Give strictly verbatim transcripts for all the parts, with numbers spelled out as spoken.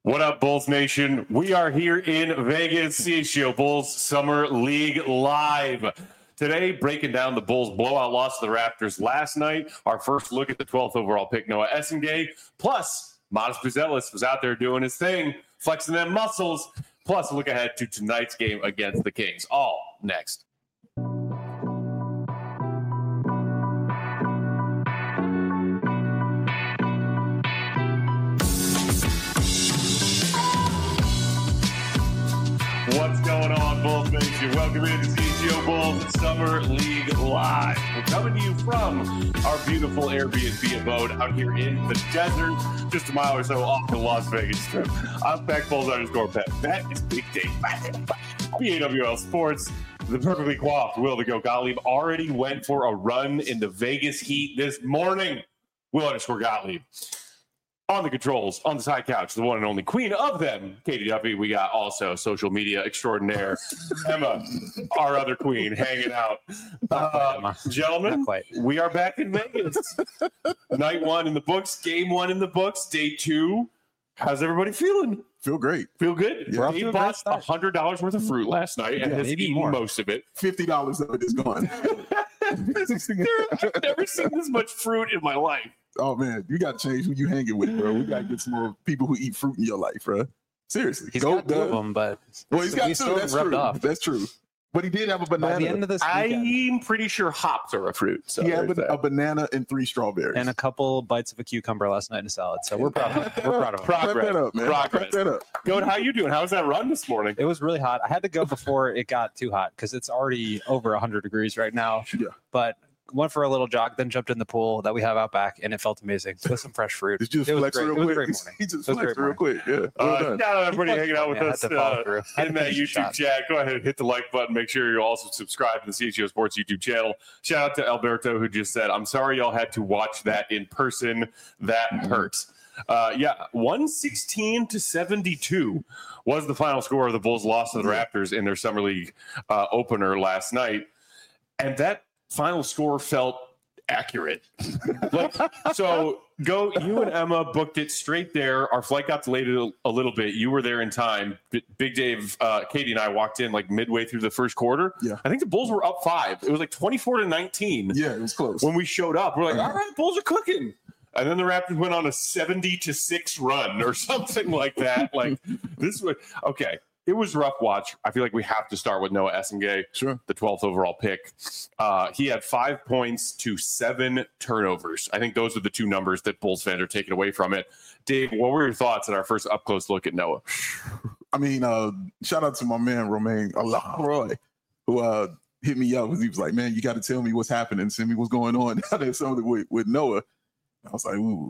What up, Bulls Nation? We are here in Vegas, C H G O Bulls Summer League Live. Today, breaking down the Bulls' blowout loss to the Raptors last night. Our first look at the twelfth overall pick, Noah Essengay. Plus, Modest Buzelis was out there doing his thing, flexing them muscles. Plus, a look ahead to tonight's game against the Kings. All next. What's going on, Bulls Nation? Welcome into C H G O Bulls Summer League Live. We're coming to you from our beautiful Airbnb abode out here in the desert, just a mile or so off the Las Vegas Strip. I'm Peck Bulls underscore Pet. That is Big Dave B A W L Sports. The perfectly coiffed Will the Go Gottlieb already went for a run in the Vegas heat this morning. Will underscore Gottlieb. On the controls, on the side couch, the one and only queen of them, Katie Duffy. We got also social media extraordinaire, Emma, our other queen, hanging out. Uh, gentlemen, we are back in Vegas. Night one in the books, game one in the books, day two. How's everybody feeling? Feel great. Feel good? Yeah. Dave bought one hundred dollars worth of fruit last night and yeah, has eaten more. most of it. fifty dollars of it is gone. I've never seen this much fruit in my life. Oh, man, you got to change who you hanging with, bro. We got to get some more people who eat fruit in your life, bro. Seriously. He's Go, got two of them, but well, he's got two. That's true. Off. That's true. But he did have a banana. By the end of this weekend, I'm pretty sure hops are a fruit. So he had a, a banana and three strawberries. And a couple bites of a cucumber last night in a salad. So we're proud of him. We're proud of him. Progress. That up, man. Progress. That up. Goat, how you doing? How was that run this morning? It was really hot. I had to go before it got too hot because it's already over one hundred degrees right now. Yeah. But went for a little jog, then jumped in the pool that we have out back, and it felt amazing with some fresh fruit. Did you just it was flex great. real It was a quick? great morning. He just it was flexed real morning. quick. Yeah. Well uh, done. Shout out everybody hanging out with yeah, us uh, in that YouTube shot. chat. Go ahead and hit the like button. Make sure you also subscribe to the C H G O Sports YouTube channel. Shout out to Alberto, who just said, I'm sorry y'all had to watch that in person. That hurts. Uh, yeah, one sixteen to seventy-two was the final score of the Bulls' loss to the Raptors in their Summer League uh, opener last night. And that final score felt accurate. Like, so go, you and Emma booked it straight there. Our flight got delayed a, a little bit. You were there in time. B- Big Dave, uh, Katie and I walked in like midway through the first quarter. Yeah. I think the Bulls were up five. It was like twenty-four to nineteen. Yeah, it was close. When we showed up, we're like, all right, Bulls are cooking. And then the Raptors went on a seventy to six run or something like that. Like this was okay. It was a rough watch. I feel like we have to start with Noah Essengay, sure, the twelfth overall pick. Uh, he had five points to seven turnovers. I think those are the two numbers that Bulls fans are taking away from it. Dave, what were your thoughts at our first up-close look at Noah? I mean, uh, shout out to my man, Romain Roy, who uh, hit me up because he was like, man, you got to tell me what's happening, send me what's going on out there something with, with Noah. I was like, ooh.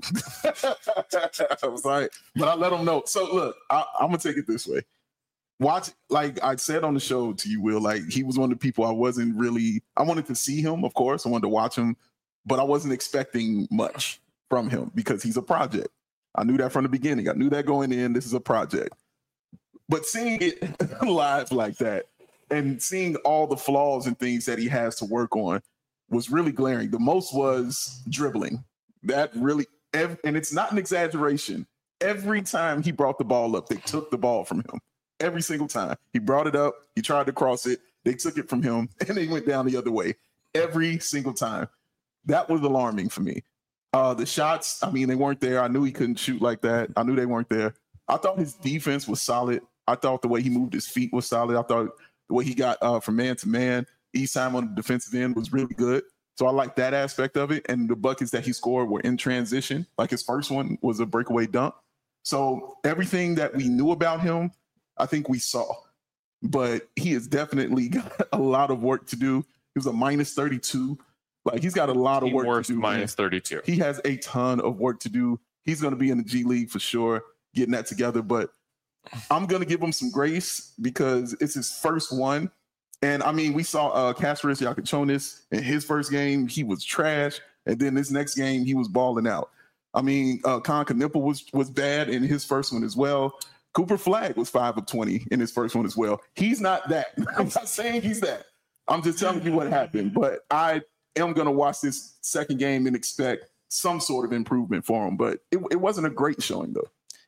I was like, but I let him know. So, look, I, I'm going to take it this way. Watch, like I said on the show to you, Will, like he was one of the people I wasn't really, I wanted to see him, of course. I wanted to watch him, but I wasn't expecting much from him because he's a project. I knew that from the beginning. I knew that going in, this is a project. But seeing it live like that and seeing all the flaws and things that he has to work on was really glaring. The most was dribbling. That really, and it's not an exaggeration. Every time he brought the ball up, they took the ball from him. Every single time he brought it up, he tried to cross it. They took it from him and they went down the other way every single time. That was alarming for me. Uh, the shots, I mean, they weren't there. I knew he couldn't shoot like that. I knew they weren't there. I thought his defense was solid. I thought the way he moved his feet was solid. I thought the way he got uh, from man to man, each time on the defensive end was really good. So I like that aspect of it. And the buckets that he scored were in transition. Like his first one was a breakaway dunk. So everything that we knew about him, I think we saw, but he has definitely got a lot of work to do. He was a minus thirty-two. Like he's got a lot of work worst to do. Minus thirty-two. He has a ton of work to do. He's going to be in the G League for sure, getting that together. But I'm going to give him some grace because it's his first one. And I mean, we saw uh, Kasparis Yakuchonis in his first game. He was trash. And then this next game, he was balling out. I mean, uh, Con Knipple was, was bad in his first one as well. Cooper Flagg was five of twenty in his first one as well. He's not that. I'm not saying he's that. I'm just telling you what happened. But I am going to watch this second game and expect some sort of improvement for him. But it, it wasn't a great showing, though.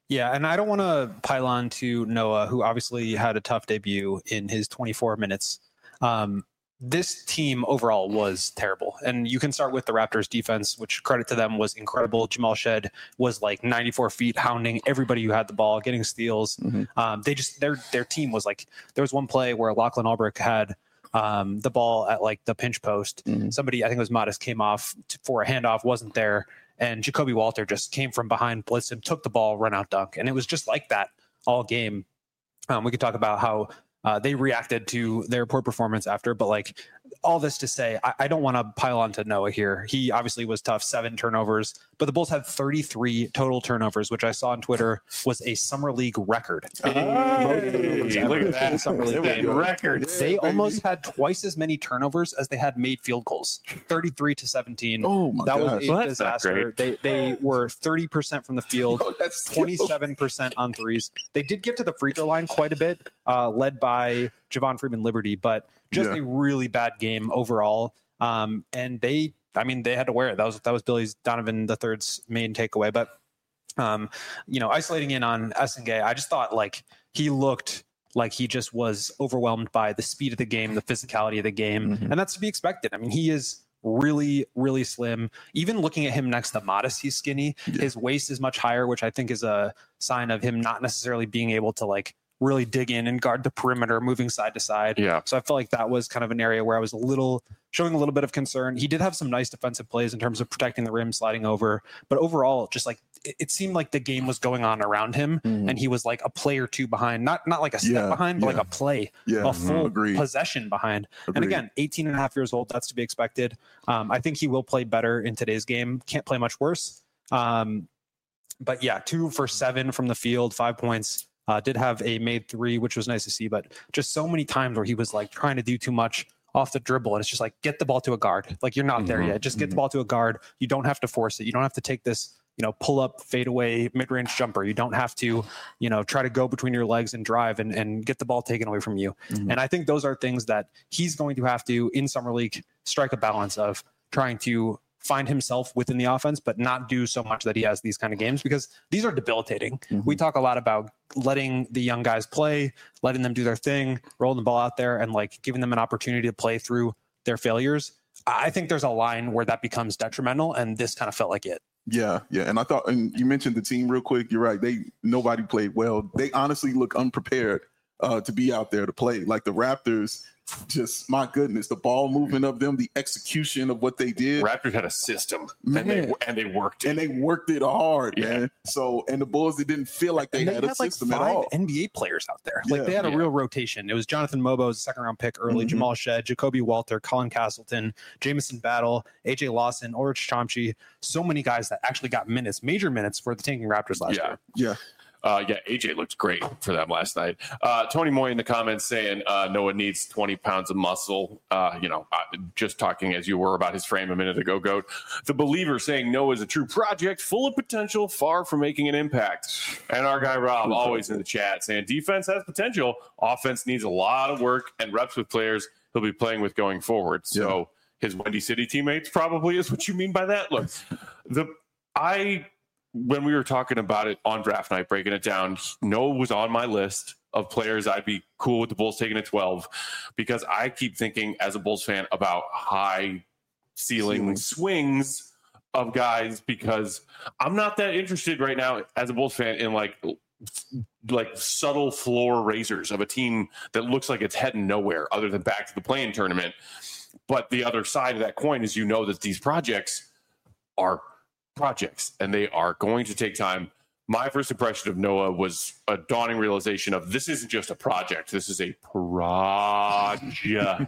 Yeah, and I don't want to pile on to Noah, who obviously had a tough debut in his twenty-four minutes. Um, this team overall was terrible. And you can start with the Raptors defense, which credit to them was incredible. Jamal Shed was like ninety-four feet, hounding everybody who had the ball, getting steals. Mm-hmm. Um, they just, their, their team was like, there was one play where Lachlan Albrecht had um, the ball at like the pinch post. Mm-hmm. Somebody, I think it was Modest, came off to, for a handoff, wasn't there. And Jacoby Walter just came from behind, blitzed him, took the ball, run out dunk. And it was just like that all game. Um, we could talk about how uh, they reacted to their poor performance after, but like all this to say, I, I don't want to pile on to Noah here. He obviously was tough, seven turnovers, but the Bulls had thirty-three total turnovers, which I saw on Twitter was a summer league record. Hey, look at that summer league game. record. They yeah, almost had twice as many turnovers as they had made field goals, thirty-three to seventeen. Oh my that gosh. was a well, disaster. They they were thirty percent from the field, oh, that's twenty-seven percent on threes. They did get to the free throw line quite a bit, uh, led by Javon Freeman Liberty, but just yeah. a really bad game overall. Um, and they, I mean, they had to wear it. That was that was Billy Donovan the third's main takeaway. But um, you know, isolating in on Essengay, I just thought like he looked like he just was overwhelmed by the speed of the game, the physicality of the game, mm-hmm. and that's to be expected. I mean, he is really, really slim. Even looking at him next to Modest, he's skinny. Yeah. His waist is much higher, which I think is a sign of him not necessarily being able to like really dig in and guard the perimeter, moving side to side. Yeah. So I felt like that was kind of an area where I was a little showing a little bit of concern. He did have some nice defensive plays in terms of protecting the rim, sliding over, but overall, just like it, it seemed like the game was going on around him, mm. and he was like a play or two behind, not not like a step yeah, behind, but yeah. like a play, yeah, a full agreed. possession behind. Agreed. And again, eighteen and a half years old, that's to be expected. Um, I think he will play better in today's game. Can't play much worse. Um, but yeah, two for seven from the field, five points. Uh, did have a made three, which was nice to see, but just so many times where he was like trying to do too much off the dribble. And it's just like, get the ball to a guard. Like you're not mm-hmm. there yet. Just get mm-hmm. the ball to a guard. You don't have to force it. You don't have to take this, you know, pull up, fade away, mid-range jumper. You don't have to, you know, try to go between your legs and drive and, and get the ball taken away from you. Mm-hmm. And I think those are things that he's going to have to, in Summer League, strike a balance of trying to find himself within the offense, but not do so much that he has these kind of games, because these are debilitating. Mm-hmm. We talk a lot about letting the young guys play, letting them do their thing, rolling the ball out there, and like giving them an opportunity to play through their failures. I think there's a line where that becomes detrimental, and this kind of felt like it. Yeah, yeah. And I thought, and you mentioned the team real quick. You're right. They nobody played well. They honestly look unprepared uh, to be out there to play. Like the Raptors, just my goodness, the ball movement of them, the execution of what they did. Raptors had a system, man, and they and they worked it. and they worked it hard, yeah. man. So, and the Bulls, they didn't feel like they, they had, had a system like at all. N B A players out there, like yeah, they had a yeah. real rotation. It was Jonathan Mobo, a second round pick early, mm-hmm. Jamal Shed, Jacoby Walter, Colin Castleton, Jamison Battle, A J Lawson, Ulrich Chomsky. So many guys that actually got minutes, major minutes for the tanking Raptors last yeah. year. Yeah. Uh, yeah, A J looked great for them last night. Uh, Tony Moy in the comments saying uh, Noah needs twenty pounds of muscle. Uh, you know, uh, just talking as you were about his frame a minute ago, Goat. The Believer saying Noah is a true project, full of potential, far from making an impact. And our guy Rob always in the chat saying defense has potential. Offense needs a lot of work and reps with players he'll be playing with going forward. So yeah. his Windy City teammates probably is what you mean by that. Look, the I... when we were talking about it on draft night, breaking it down, Noah was on my list of players I'd be cool with the Bulls taking at twelve, because I keep thinking as a Bulls fan about high ceiling swings of guys, because I'm not that interested right now as a Bulls fan in like like subtle floor raisers of a team that looks like it's heading nowhere other than back to the play-in tournament. But the other side of that coin is, you know, that these projects are projects and they are going to take time. My first impression of Noah was a dawning realization of this isn't just a project. This is a project.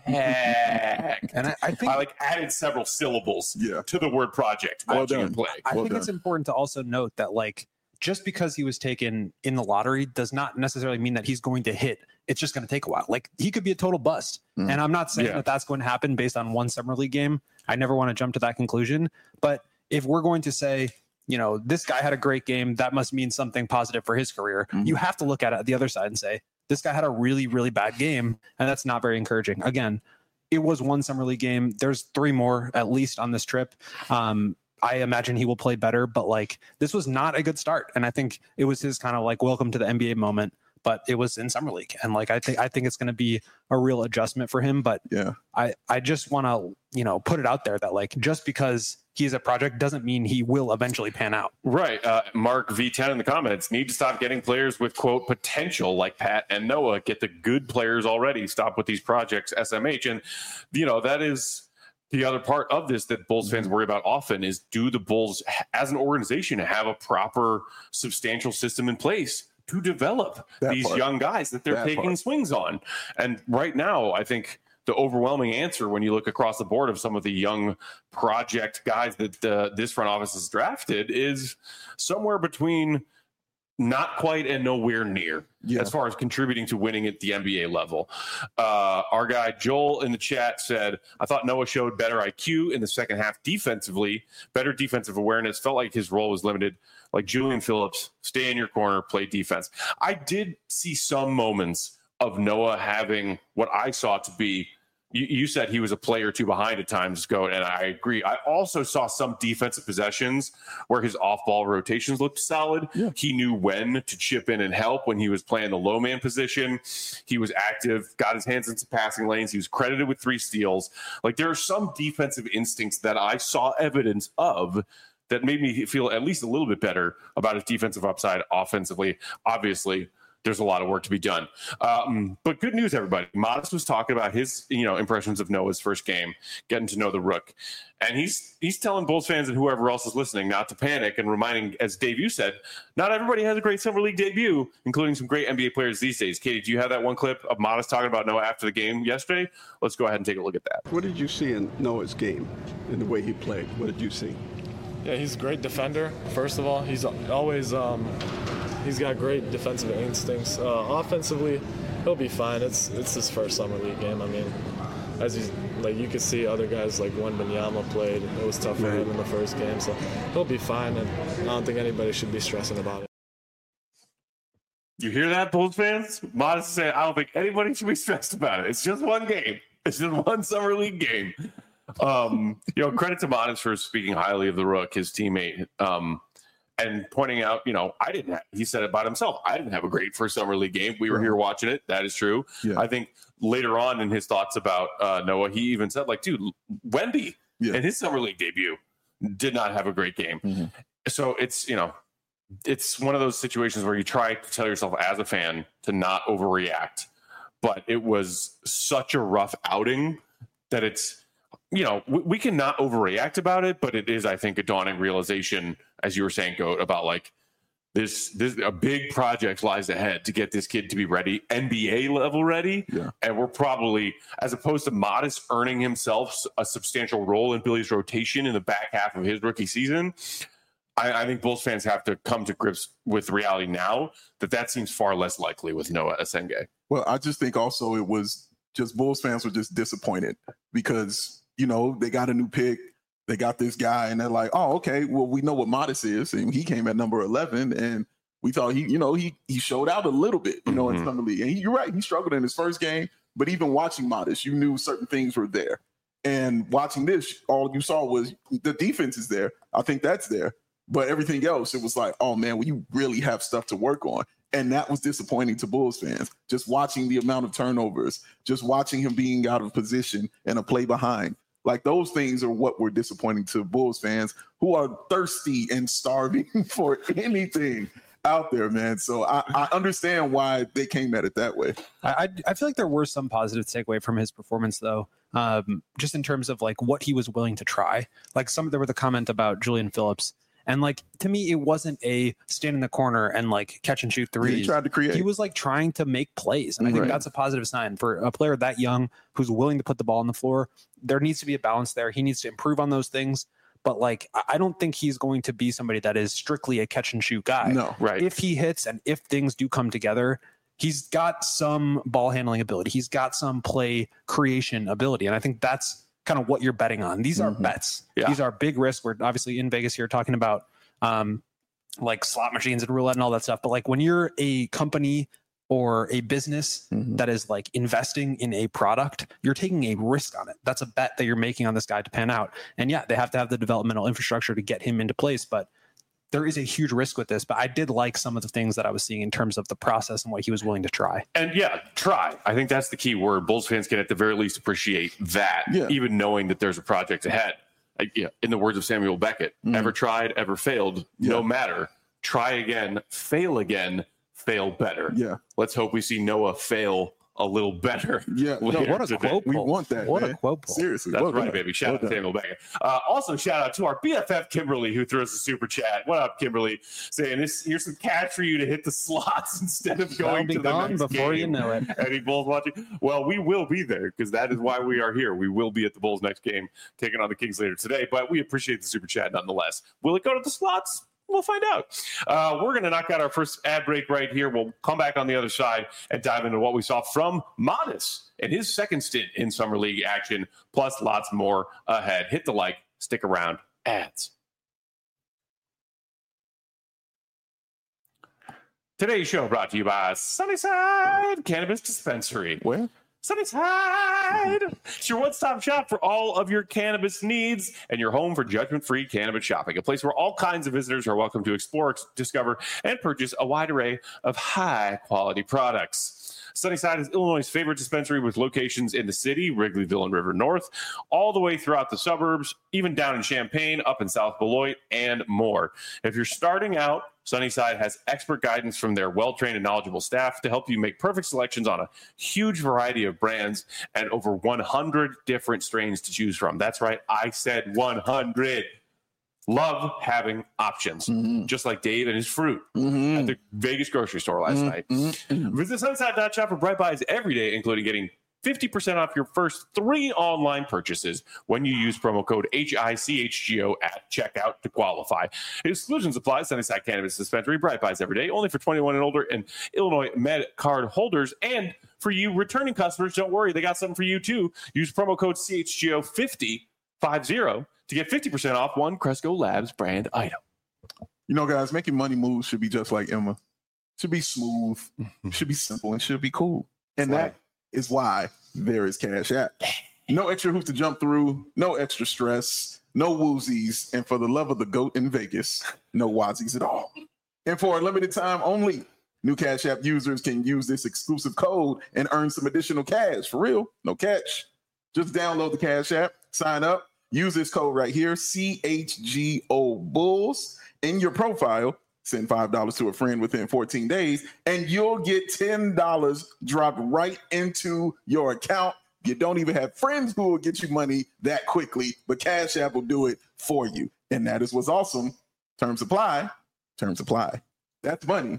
And I, I think I like added several syllables yeah. to the word project. Well watching done. him play. I well think done. it's important to also note that like just because he was taken in the lottery does not necessarily mean that he's going to hit. It's just going to take a while. Like he could be a total bust. Mm. And I'm not saying yeah. that that's going to happen based on one summer league game. I never want to jump to that conclusion, but if we're going to say, you know, this guy had a great game, that must mean something positive for his career. Mm-hmm. You have to look at it the other side and say, this guy had a really, really bad game, and that's not very encouraging. Again, it was one summer league game. There's three more at least on this trip. Um, I imagine he will play better, but like this was not a good start. And I think it was his kind of like welcome to the N B A moment, but it was in summer league. And like, I think, I think it's going to be a real adjustment for him, but yeah, I, I just want to, you know, put it out there that like, just because he's a project doesn't mean he will eventually pan out. Right. Uh, Mark V ten in the comments, need to stop getting players with quote potential like Pat and Noah. Get the good players already. Stop with these projects, S M H. And, you know, that is the other part of this that Bulls fans worry about often is, do the Bulls as an organization have a proper substantial system in place to develop that these part. young guys that they're that taking part. swings on? And right now, I think the overwhelming answer when you look across the board of some of the young project guys that uh, this front office has drafted is somewhere between not quite and nowhere near Yeah. as far as contributing to winning at the N B A level. Uh, our guy Joel in the chat said, I thought Noah showed better I Q in the second half defensively, better defensive awareness, felt like his role was limited. Like Julian Phillips, stay in your corner, play defense. I did see some moments of Noah having what I saw to be, you, you said he was a play or two behind at times, Go, and I agree. I also saw some defensive possessions where his off-ball rotations looked solid. Yeah. He knew when to chip in and help when he was playing the low man position. He was active, got his hands into passing lanes. He was credited with three steals. Like, there are some defensive instincts that I saw evidence of that made me feel at least a little bit better about his defensive upside offensively. Obviously, there's a lot of work to be done. Um, but good news, everybody. Modest was talking about his, you know, impressions of Noah's first game, getting to know the Rook. And he's he's telling Bulls fans and whoever else is listening not to panic and reminding, as Dave, you said, not everybody has a great Summer League debut, including some great N B A players these days. Katie, do you have that one clip of Modest talking about Noah after the game yesterday? Let's go ahead and take a look at that. What did you see in Noah's game, in the way he played? What did you see? Yeah, he's a great defender, first of all. He's always um, he's got great defensive instincts. Uh, offensively, he'll be fine. It's it's his first summer league game. I mean, as he's like you could see other guys like Wembanyama played. It was tough for him in the first game, so he'll be fine. And I don't think anybody should be stressing about it. You hear that, Bulls fans? Modest saying, I don't think anybody should be stressed about it. It's just one game. It's just one summer league game. Um, you know, credit to Modest for speaking highly of the Rook, his teammate, um, and pointing out, you know, I didn't have, he said it about himself. I didn't have a great first summer league game. We were here watching it. That is true. Yeah. I think later on in his thoughts about uh, Noah, he even said, like, dude, Wemby Yeah. in his summer league debut did not have a great game. Mm-hmm. So it's, you know, it's one of those situations where you try to tell yourself as a fan to not overreact, but it was such a rough outing that it's, you know, we, we can not overreact about it, but it is, I think, a dawning realization, as you were saying, Goat, about like this, this a big project lies ahead to get this kid to be ready, N B A level ready. Yeah. And we're probably, as opposed to Modest earning himself a substantial role in Billy's rotation in the back half of his rookie season, I, I think Bulls fans have to come to grips with reality now that that seems far less likely with Noah Asenge. Well, I just think also it was just Bulls fans were just disappointed because, you know, they got a new pick. They got this guy and they're like, oh, okay, well, we know what Modest is. And he came at number eleven and we thought he, you know, he he showed out a little bit, you know, Mm-hmm. in Summer League. And he, you're right, he struggled in his first game. But even watching Modest, you knew certain things were there. And watching this, all you saw was the defense is there. I think that's there. But everything else, it was like, oh, man, well, you really have stuff to work on. And that was disappointing to Bulls fans. Just watching the amount of turnovers, just watching him being out of position and a play behind. Like those things are what were disappointing to Bulls fans who are thirsty and starving for anything out there, man. So I, I understand why they came at it that way. I, I I feel like there were some positive takeaway from his performance, though, um, just in terms of like what he was willing to try. Like some there were the comment about Julian Phillips. And like to me, it wasn't a stand in the corner and like catch and shoot threes. He tried to create. He was like trying to make plays. And I think Right. that's a positive sign for a player that young who's willing to put the ball on the floor. There needs to be a balance there. He needs to improve on those things. But like, I I don't think he's going to be somebody that is strictly a catch and shoot guy. No. Right. If he hits and if things do come together, he's got some ball handling ability. He's got some play creation ability. And I think that's kind of what you're betting on. These are Mhm. bets. Yeah. These are big risks. We're obviously in Vegas here talking about um, like slot machines and roulette and all that stuff. But like when you're a company or a business Mhm. that is like investing in a product, you're taking a risk on it. That's a bet that you're making on this guy to pan out. And yeah, they have to have the developmental infrastructure to get him into place, but there is a huge risk with this. But I did like some of the things that I was seeing in terms of the process and what he was willing to try. And yeah, try. I think that's the key word. Bulls fans can at the very least appreciate that, Yeah. even knowing that there's a project ahead. Like, yeah, in the words of Samuel Beckett, Mm. ever tried, ever failed, Yeah. no matter. Try again, fail again, fail better. Yeah. Let's hope we see Noah fail a little better. Yeah. No, later what a today. quote We pull. want that. What man. a quote pull. Seriously. That's well right, done. baby. Shout Well out to done. Samuel Beckett. Uh, also, shout out to our B F F, Kimberly, who threw us a super chat. What up, Kimberly? Saying, this, here's some cash for you to hit the slots instead of That'll going be to the gone next before you game. know it. Any Bulls watching? Well, we will be there because that is why we are here. We will be at the Bulls next game, taking on the Kings later today, but we appreciate the super chat nonetheless. Will it go to the slots? We'll find out. Uh, we're going to knock out our first ad break right here. We'll come back on the other side and dive into what we saw from Modest and his second stint in Summer League action, plus lots more ahead. Hit the like, stick around, ads. Today's show brought to you by Sunnyside Cannabis Dispensary. Where? Sunnyside! It's your one-stop shop for all of your cannabis needs and your home for judgment-free cannabis shopping. A place where all kinds of visitors are welcome to explore, discover, and purchase a wide array of high-quality products. Sunnyside is Illinois' favorite dispensary with locations in the city, Wrigleyville and River North, all the way throughout the suburbs, even down in Champaign, up in South Beloit, and more. If you're starting out, Sunnyside has expert guidance from their well-trained and knowledgeable staff to help you make perfect selections on a huge variety of brands and over one hundred different strains to choose from. That's right, I said one hundred. Love having options, Mhm. just like Dave and his fruit Mhm. at the Vegas grocery store last night. Mhm. Visit Sunnyside dot shop for bright buys every day, including getting fifty percent off your first three online purchases when you use promo code H I C H G O at checkout to qualify. Exclusions apply. Sunnyside Cannabis Dispensary, bright buys every day, only for twenty-one and older and Illinois Med card holders. And for you returning customers, don't worry, they got something for you too. Use promo code C H G O fifty fifty to get fifty percent off one Cresco Labs brand item. You know, guys, making money moves should be just like Emma. Should be smooth, should be simple, and should be cool. And Right. that is why there is Cash App. No extra hoops to jump through, no extra stress, no woozies, and for the love of the goat in Vegas, no wazies at all. And for a limited time only, new Cash App users can use this exclusive code and earn some additional cash. For real, no catch. Just download the Cash App, sign up, use this code right here, C H G O Bulls, in your profile. Send five dollars to a friend within fourteen days, and you'll get ten dollars dropped right into your account. You don't even have friends who will get you money that quickly, but Cash App will do it for you. And that is what's awesome. Terms apply. Terms apply. That's money.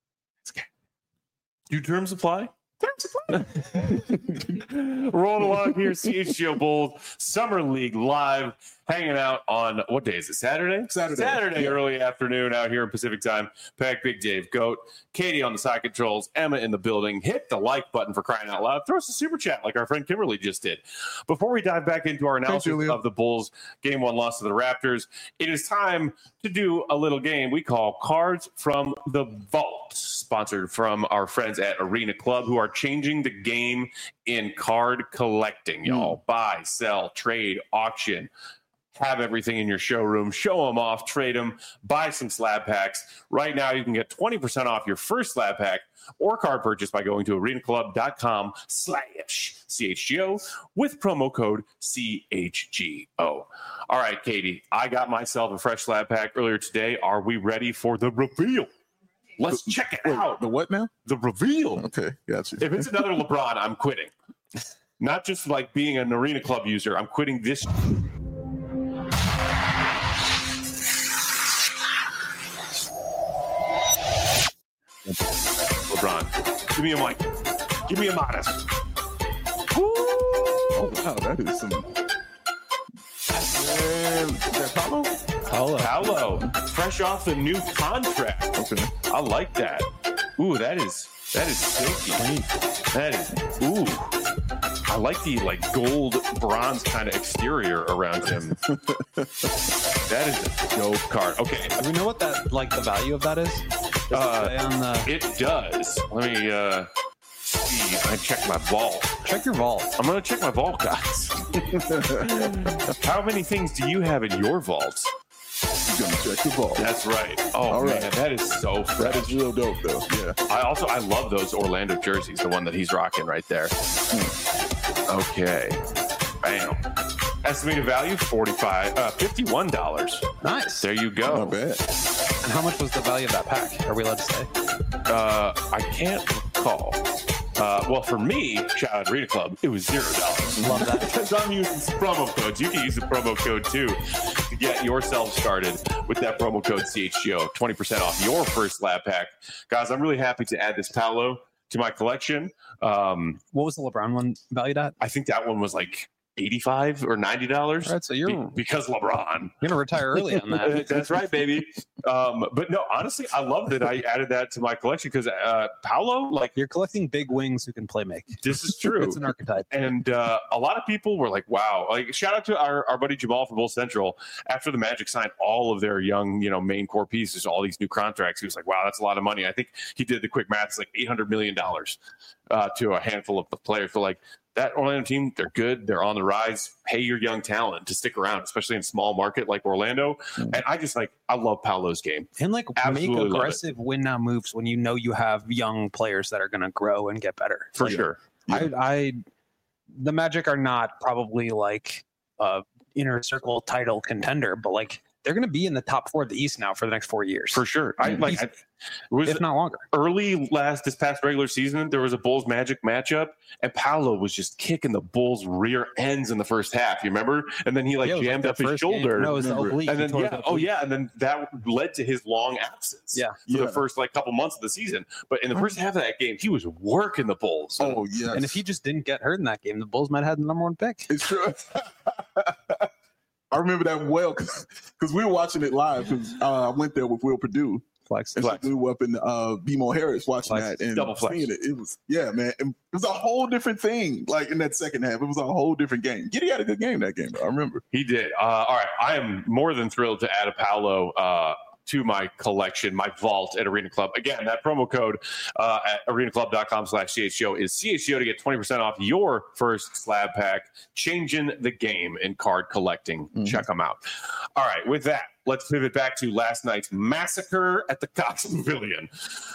Do terms apply? Terms apply. Rolling along here, C H G O Bulls Summer League live, hanging out on, what day is it? Saturday? Saturday. Saturday, Yeah. early afternoon out here in Pacific time. Pack Big Dave Goat, Katie on the side controls, Emma in the building. Hit the like button for crying out loud. Throw us a super chat like our friend Kimberly just did. Before we dive back into our analysis Julia. of the Bulls game one loss to the Raptors, it is time to do a little game we call Cards from the Vault, sponsored from our friends at Arena Club, who are changing the game in card collecting, y'all. Buy, sell, trade, auction. Have everything in your showroom, show them off, trade them, buy some slab packs. Right now, you can get twenty percent off your first slab pack or card purchase by going to arenaclub.com slash CHGO with promo code C H G O. All right, Katie, I got myself a fresh slab pack earlier today. Are we ready for the reveal? Let's check it Wait, out. the what now? The reveal. Okay, got you. If it's another LeBron, I'm quitting. Not just like being an Arena Club user, I'm quitting this. LeBron, give me a mic. Give me a Modest. Oh, wow, that is some. Man, is that Paulo? Hello. Paolo, fresh off the new contract. Okay. I like that. Ooh, that is that is silky. That is ooh. I like the like gold bronze kind of exterior around him. That is a dope card. Okay, Do we know what that, like, the value of that is? Uh, Stay on the, it does. Let me uh, see. I check my vault. check your vault. I'm going to check my vault, guys. How many things do you have in your vault? You're gonna check the ball. That's right. Oh, All man, right. that is so fresh. That is real dope, though. Yeah. I also, I love those Orlando jerseys, the one that he's rocking right there. Okay. Bam. Estimated value, forty-five, uh, fifty-one dollars. Nice. There you go. Not bad. And how much was the value of that pack? Are we allowed to say? Uh, I can't recall. Uh, well, for me, shout out Arena Club, it was zero dollars. Love that. Because I'm using promo codes. You can use the promo code too to get yourself started with that promo code C H G O, twenty percent off your first lab pack. Guys, I'm really happy to add this Paolo to my collection. Um, What was the LeBron one valued at? I think that one was like eighty-five or ninety dollars. All right, so you're Be- because LeBron. You're gonna retire early on that. That's right, baby. Um, but no, honestly, I love that I added that to my collection because uh, Paolo, like, You're collecting big wings who can play make. this is true. It's an archetype. And uh, a lot of people were like, wow. Like, shout out to our, our buddy Jamal from Bull Central. After the Magic signed all of their young, you know, main core pieces, all these new contracts, he was like, wow, that's a lot of money. I think he did the quick math. It's like eight hundred million dollars uh, to a handful of the players. So, like, that Orlando team, they're good. They're on the rise. Pay your young talent to stick around, especially in a small market like Orlando. Mm-hmm. And I just, like, I love Paolo's game. And like Absolutely love make it. aggressive win now moves when you know you have young players that are going to grow and get better. For Like, sure. I, I, the Magic are not probably like a inner circle title contender, but like they're going to be in the top four of the East now for the next four years, For sure. I like I, it was if not longer. early last this past regular season, there was a Bulls Magic matchup, and Paolo was just kicking the Bulls' rear ends in the first half. You remember? And then he like Yeah, it was jammed the up his first game. shoulder. No, it was the Remember. oblique. and He then tore yeah, the oh oblique. yeah, and then that led to his long absence. Yeah. for Yeah. the first like couple months of the season. But in the first half of that game, he was working the Bulls. Oh, yes. And if he just didn't get hurt in that game, the Bulls might have had the number one pick. It's true. I remember that well because we were watching it live because uh, I went there with Will Purdue. Flex. And so we were up in uh, B M O Harris watching Flex. that and Double flex. seeing it. It was, yeah, man. It was a whole different thing. Like in that second half, it was a whole different game. Giddy had a good game that game, though. I remember. He did. Uh, all right. I am more than thrilled to add a Paolo uh, to my collection, my vault at Arena Club. Again, that promo code uh, at arenaclub.com slash CHGO is C H G O to get twenty percent off your first slab pack. Changing the game in card collecting. Mhm. Check them out. All right. With that, let's pivot back to last night's massacre at the Cox Pavilion.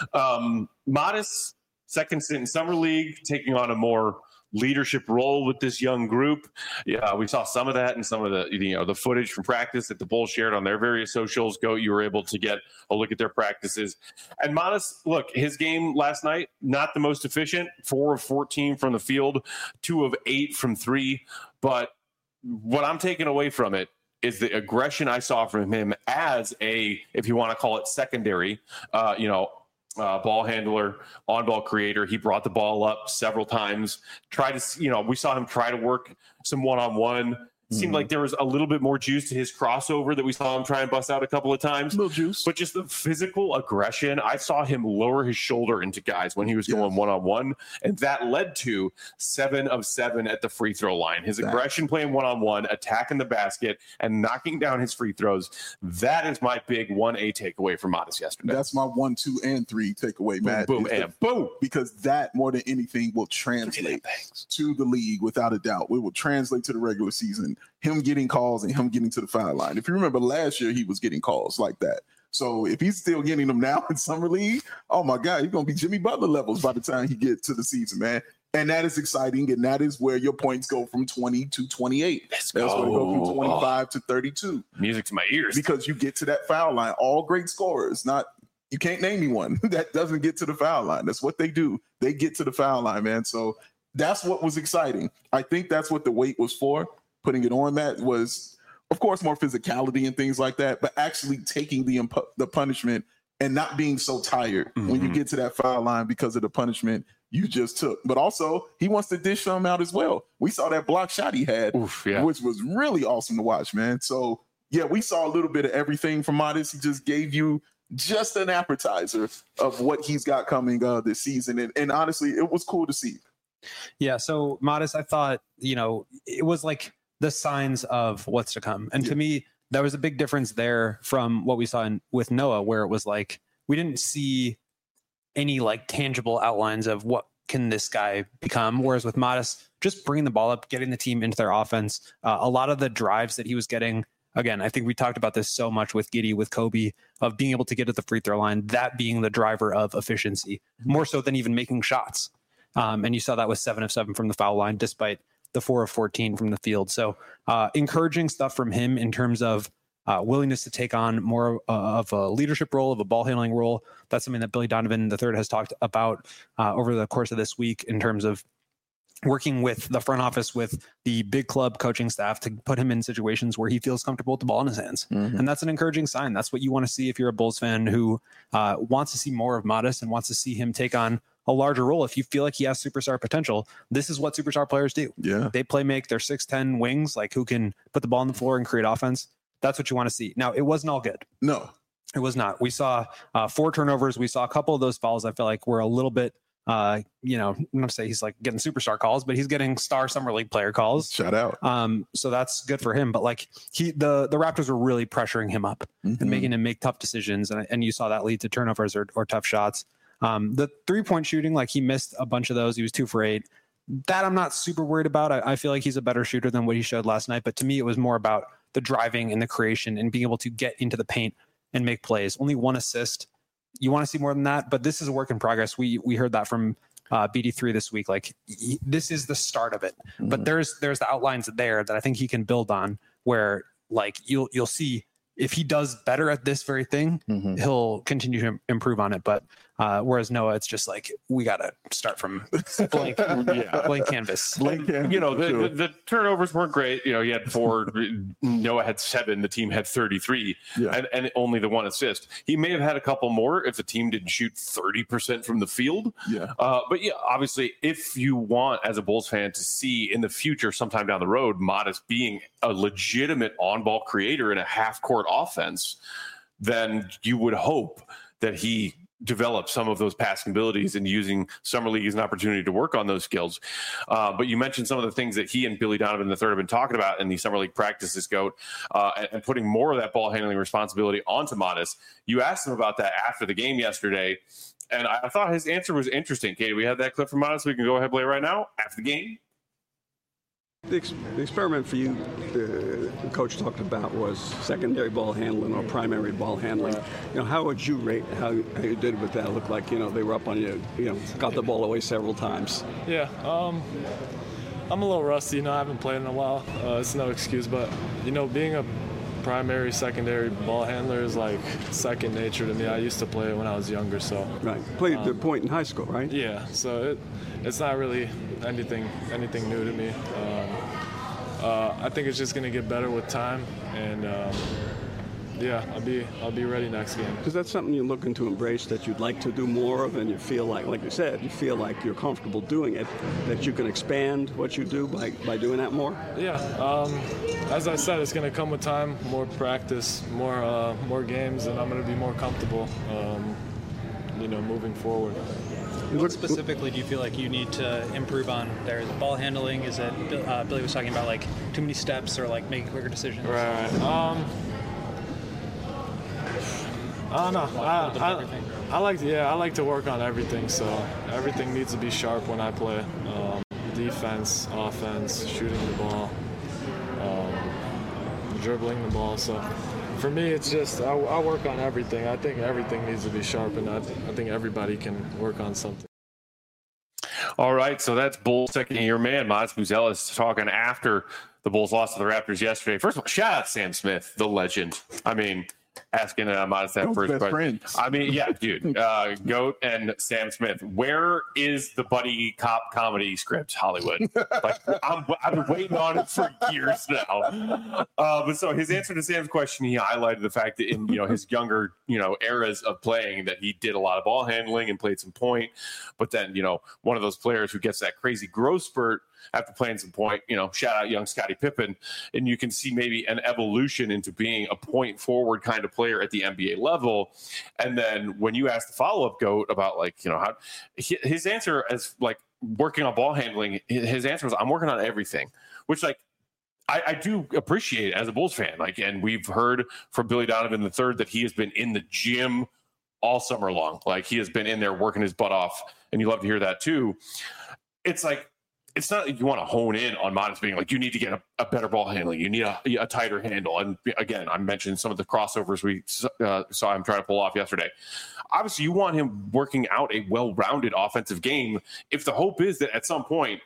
Um, Modest, second stint in Summer League, taking on a more leadership role with this young group. Yeah, we saw some of that in some of the you know the footage from practice that the Bulls shared on their various socials. Go, you were able to get a look at their practices. And Modest, look, his game last night not the most efficient. Four of fourteen from the field, two of eight from three. But what I'm taking away from it is the aggression I saw from him as a, if you want to call it secondary, uh, you know. Uh, ball handler, on-ball creator. He brought the ball up several times. Tried to, you know, we saw him try to work some one-on-one. Seemed Mhm. like there was a little bit more juice to his crossover that we saw him try and bust out a couple of times. Little juice. But just the physical aggression, I saw him lower his shoulder into guys when he was going Yes. one-on-one, and that led to seven of seven at the free throw line. His Exactly. aggression playing one-on-one, attacking the basket, and knocking down his free throws. That is my big one A takeaway from Modest yesterday. That's my one, two, and three takeaway, boom, Matt. boom, is the- and boom. because that more than anything will translate to the league without a doubt. It will translate to the regular season. Him getting calls and him getting to the foul line. If you remember last year, he was getting calls like that. So if he's still getting them now in summer league, oh my God, he's gonna be Jimmy Butler levels by the time he gets to the season, man. And that is exciting, and that is where your points go from twenty to twenty-eight. Let's That's where they go go. from twenty-five to thirty-two. Music to my ears. Because you get to that foul line. All great scorers, not you can't name me one that doesn't get to the foul line. That's what they do. They get to the foul line, man. So that's what was exciting. I think that's what the weight was for. Putting it on that was, of course, more physicality and things like that, but actually taking the imp- the punishment and not being so tired when you Mhm. get to that foul line because of the punishment you just took. But also, he wants to dish some out as well. We saw that block shot he had, Oof, yeah. which was really awesome to watch, man. So, yeah, we saw a little bit of everything from Modest. He just gave you just an appetizer of what he's got coming uh, this season. And, and honestly, it was cool to see. Yeah. So Modest, I thought, you know, it was like the signs of what's to come. And Yeah. to me, there was a big difference there from what we saw in, with Noah, where it was like we didn't see any like tangible outlines of what can this guy become. Whereas with Modest, just bringing the ball up, getting the team into their offense, uh, a lot of the drives that he was getting, again, I think we talked about this so much with Giddey, with Kobe, of being able to get at the free throw line, that being the driver of efficiency, more so than even making shots. Um, and you saw that with seven of seven from the foul line, despite the four of fourteen from the field. So uh, encouraging stuff from him in terms of uh, willingness to take on more uh, of a leadership role, of a ball handling role. That's something that Billy Donovan the third has talked about uh, over the course of this week in terms of working with the front office, with the big club coaching staff to put him in situations where he feels comfortable with the ball in his hands. Mm-hmm. And that's an encouraging sign. That's what you want to see if you're a Bulls fan who uh, wants to see more of Modest and wants to see him take on a larger role. If you feel like he has superstar potential, this is what superstar players do. Yeah. They play make their six ten wings, like who can put the ball on the floor and create offense. That's what you want to see. Now, it wasn't all good. No, it was not. We saw uh, four turnovers. We saw a couple of those fouls I felt like were a little bit Uh, you know, I'm not to say he's like getting superstar calls, but he's getting star summer league player calls. Shout out. Um, so that's good for him. But like he, the the Raptors were really pressuring him up mm-hmm. and making him make tough decisions, and and you saw that lead to turnovers or, or tough shots. Um, the three point shooting, like he missed a bunch of those. He was two for eight. That I'm not super worried about. I, I feel like he's a better shooter than what he showed last night. But to me, it was more about the driving and the creation and being able to get into the paint and make plays. Only one assist. You want to see more than that, but this is a work in progress. We we heard that from uh, B D three this week. Like he, this is the start of it, mm-hmm. but there's there's the outlines there that I think he can build on. Where like you'll you'll see if he does better at this very thing, mm-hmm. he'll continue to improve on it. But uh, whereas Noah, it's just like we got to start from blank, yeah. blank canvas. Blank canvas. You know, the, sure. the, the turnovers weren't great. You know, he had four. Noah had seven. The team had thirty-three, yeah. and, and only the one assist. He may have had a couple more if the team didn't shoot thirty percent from the field. Yeah. Uh, but yeah, obviously, if you want, as a Bulls fan, to see in the future, sometime down the road, Modest being a legitimate on-ball creator in a half-court offense, then you would hope that he develop some of those passing abilities and using summer league as an opportunity to work on those skills. Uh, but you mentioned some of the things that he and Billy Donovan the third have been talking about in the summer league practices, Goat, uh, and, and putting more of that ball handling responsibility onto Modest. You asked him about that after the game yesterday, and I, I thought his answer was interesting. Katie, we have that clip from Modest. We can go ahead and play it right now after the game. The, ex- the experiment for you, the, the coach talked about, was secondary ball handling or primary ball handling. You know, how would you rate how, how you did with that? It looked like, you know, they were up on you, you know, got the ball away several times. Yeah, um, I'm a little rusty. You know, I haven't played in a while. Uh, it's no excuse, but, you know, being a primary, secondary ball handler is like second nature to me. I used to play it when I was younger, so. Right. Played um, the point in high school, right? Yeah, so it, it's not really anything anything new to me. Um, uh, I think it's just going to get better with time, and um, yeah, I'll be I'll be ready next game. Is that something you're looking to embrace, that you'd like to do more of, and you feel like, like you said, you feel like you're comfortable doing it, that you can expand what you do by, by doing that more? Yeah, um, as I said, it's going to come with time, more practice, more uh, more games, and I'm going to be more comfortable, um, you know, moving forward. What specifically do you feel like you need to improve on there? The ball handling? Is it uh, Billy was talking about like too many steps or like making quicker decisions? Right. Um, I don't know. I, I, I like to, yeah, I like to work on everything. So everything needs to be sharp when I play. Um, defense, offense, shooting the ball, um, dribbling the ball. So for me, it's just I, I work on everything. I think everything needs to be sharp, and I, I think everybody can work on something. All right, so that's Bulls second-year man, Modest Buzelis, talking after the Bulls lost to the Raptors yesterday. First of all, shout out Sam Smith, the legend. I mean, asking uh, Modest that first best question. Friends. I mean, yeah, dude, uh, Goat and Sam Smith. Where is the buddy cop comedy script, Hollywood? Like, I'm, I've been waiting on it for years now. Uh, but so his answer to Sam's question, he highlighted the fact that in you know his younger you know eras of playing, that he did a lot of ball handling and played some point. But then you know one of those players who gets that crazy growth spurt after playing some point, you know, shout out young Scottie Pippen, and you can see maybe an evolution into being a point forward kind of player at the N B A level. And then when you ask the follow-up, Goat, about like, you know, how his answer as like working on ball handling, his answer was, I'm working on everything, which like, I, I do appreciate it as a Bulls fan. Like, and we've heard from Billy Donovan the third that he has been in the gym all summer long. Like, he has been in there working his butt off, and you love to hear that too. It's like, it's not that you want to hone in on Modest being like, you need to get a, a better ball handling. You need a, a tighter handle. And again, I mentioned some of the crossovers we uh, saw him try to pull off yesterday. Obviously, you want him working out a well-rounded offensive game. If the hope is that at some point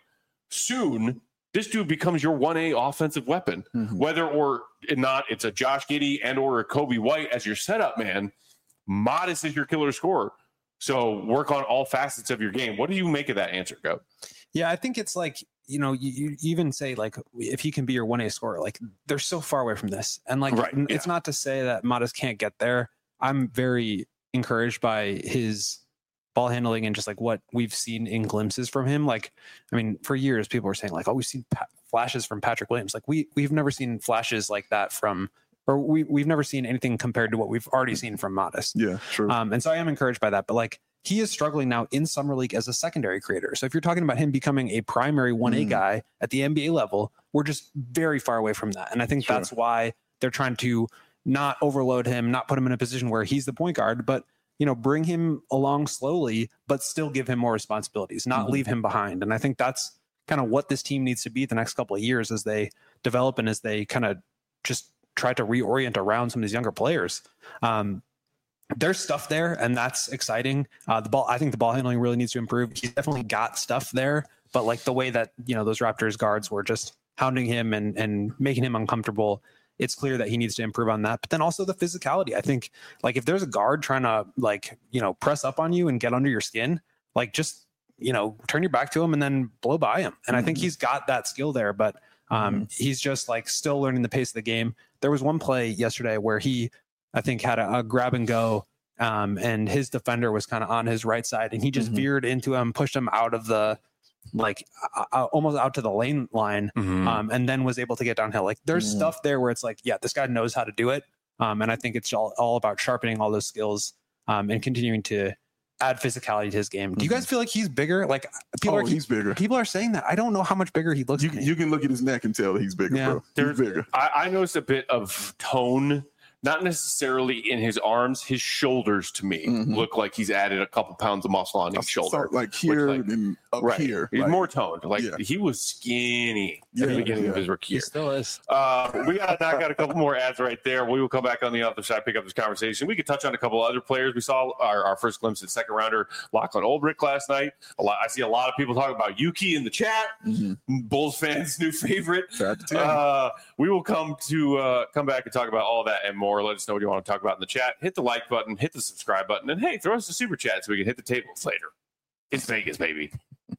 soon, this dude becomes your one A offensive weapon, mm-hmm. whether or not it's a Josh Giddey and or a Kobe White as your setup man, Modest is your killer scorer. So work on all facets of your game. What do you make of that answer, Go? Yeah, I think it's like, you know, you, you even say like, if he can be your one A scorer, like they're so far away from this. And like, right, it's yeah. not to say that Modest can't get there. I'm very encouraged by his ball handling and just like what we've seen in glimpses from him. Like, I mean, for years, people were saying like, oh, we've seen pa- flashes from Patrick Williams. Like we, we've never seen flashes like that from, or we, we've never seen anything compared to what we've already seen from Modest. Yeah, true. Um, and so I am encouraged by that, but like, he is struggling now in Summer League as a secondary creator. So if you're talking about him becoming a primary one A mm. guy at the N B A level, we're just very far away from that. And I think sure. that's why they're trying to not overload him, not put him in a position where he's the point guard, but, you know, bring him along slowly, but still give him more responsibilities, not mm-hmm. leave him behind. And I think that's kind of what this team needs to be the next couple of years as they develop and as they kind of just try to reorient around some of these younger players. Um, There's stuff there, and that's exciting. Uh, the ball, I think the ball handling really needs to improve. He's definitely got stuff there, but like the way that, you know, those Raptors guards were just hounding him and, and making him uncomfortable, it's clear that he needs to improve on that. But then also the physicality. I think like if there's a guard trying to like, you know, press up on you and get under your skin, like just, you know, turn your back to him and then blow by him. And mm-hmm. I think he's got that skill there, but um, mm-hmm. he's just like still learning the pace of the game. There was one play yesterday where he, I think had a, a grab and go, um, and his defender was kind of on his right side, and he just mm-hmm. veered into him, pushed him out of the, like, uh, almost out to the lane line, mm-hmm. um, and then was able to get downhill. Like, there's mm-hmm. stuff there where it's like, yeah, this guy knows how to do it, um, and I think it's all, all about sharpening all those skills um, and continuing to add physicality to his game. Do you guys feel like he's bigger? Like people oh, are, he's bigger. People are saying that. I don't know how much bigger he looks. You, you can look at his neck and tell he's bigger, yeah. bro. He's bigger. I, I noticed a bit of tone. Not necessarily in his arms, his shoulders to me mm-hmm. look like he's added a couple pounds of muscle on each shoulder. Like here like, and up right. here. He's like, more toned. Like yeah. he was skinny yeah, at the beginning yeah. of his rookie year. He still is. Uh, we got to knock out a couple more ads right there. We will come back on the other side, pick up this conversation. We could touch on a couple other players. We saw our, our first glimpse at second rounder Lachlan Olbrich last night. A lot, I see a lot of people talking about Yuki in the chat. Mm-hmm. Bulls fans' new favorite. Uh, we will come to uh, come back and talk about all that and more. Let us know what you want to talk about in the chat. Hit the like button, hit the subscribe button, and hey, throw us a super chat so we can hit the tables later. It's Vegas, baby.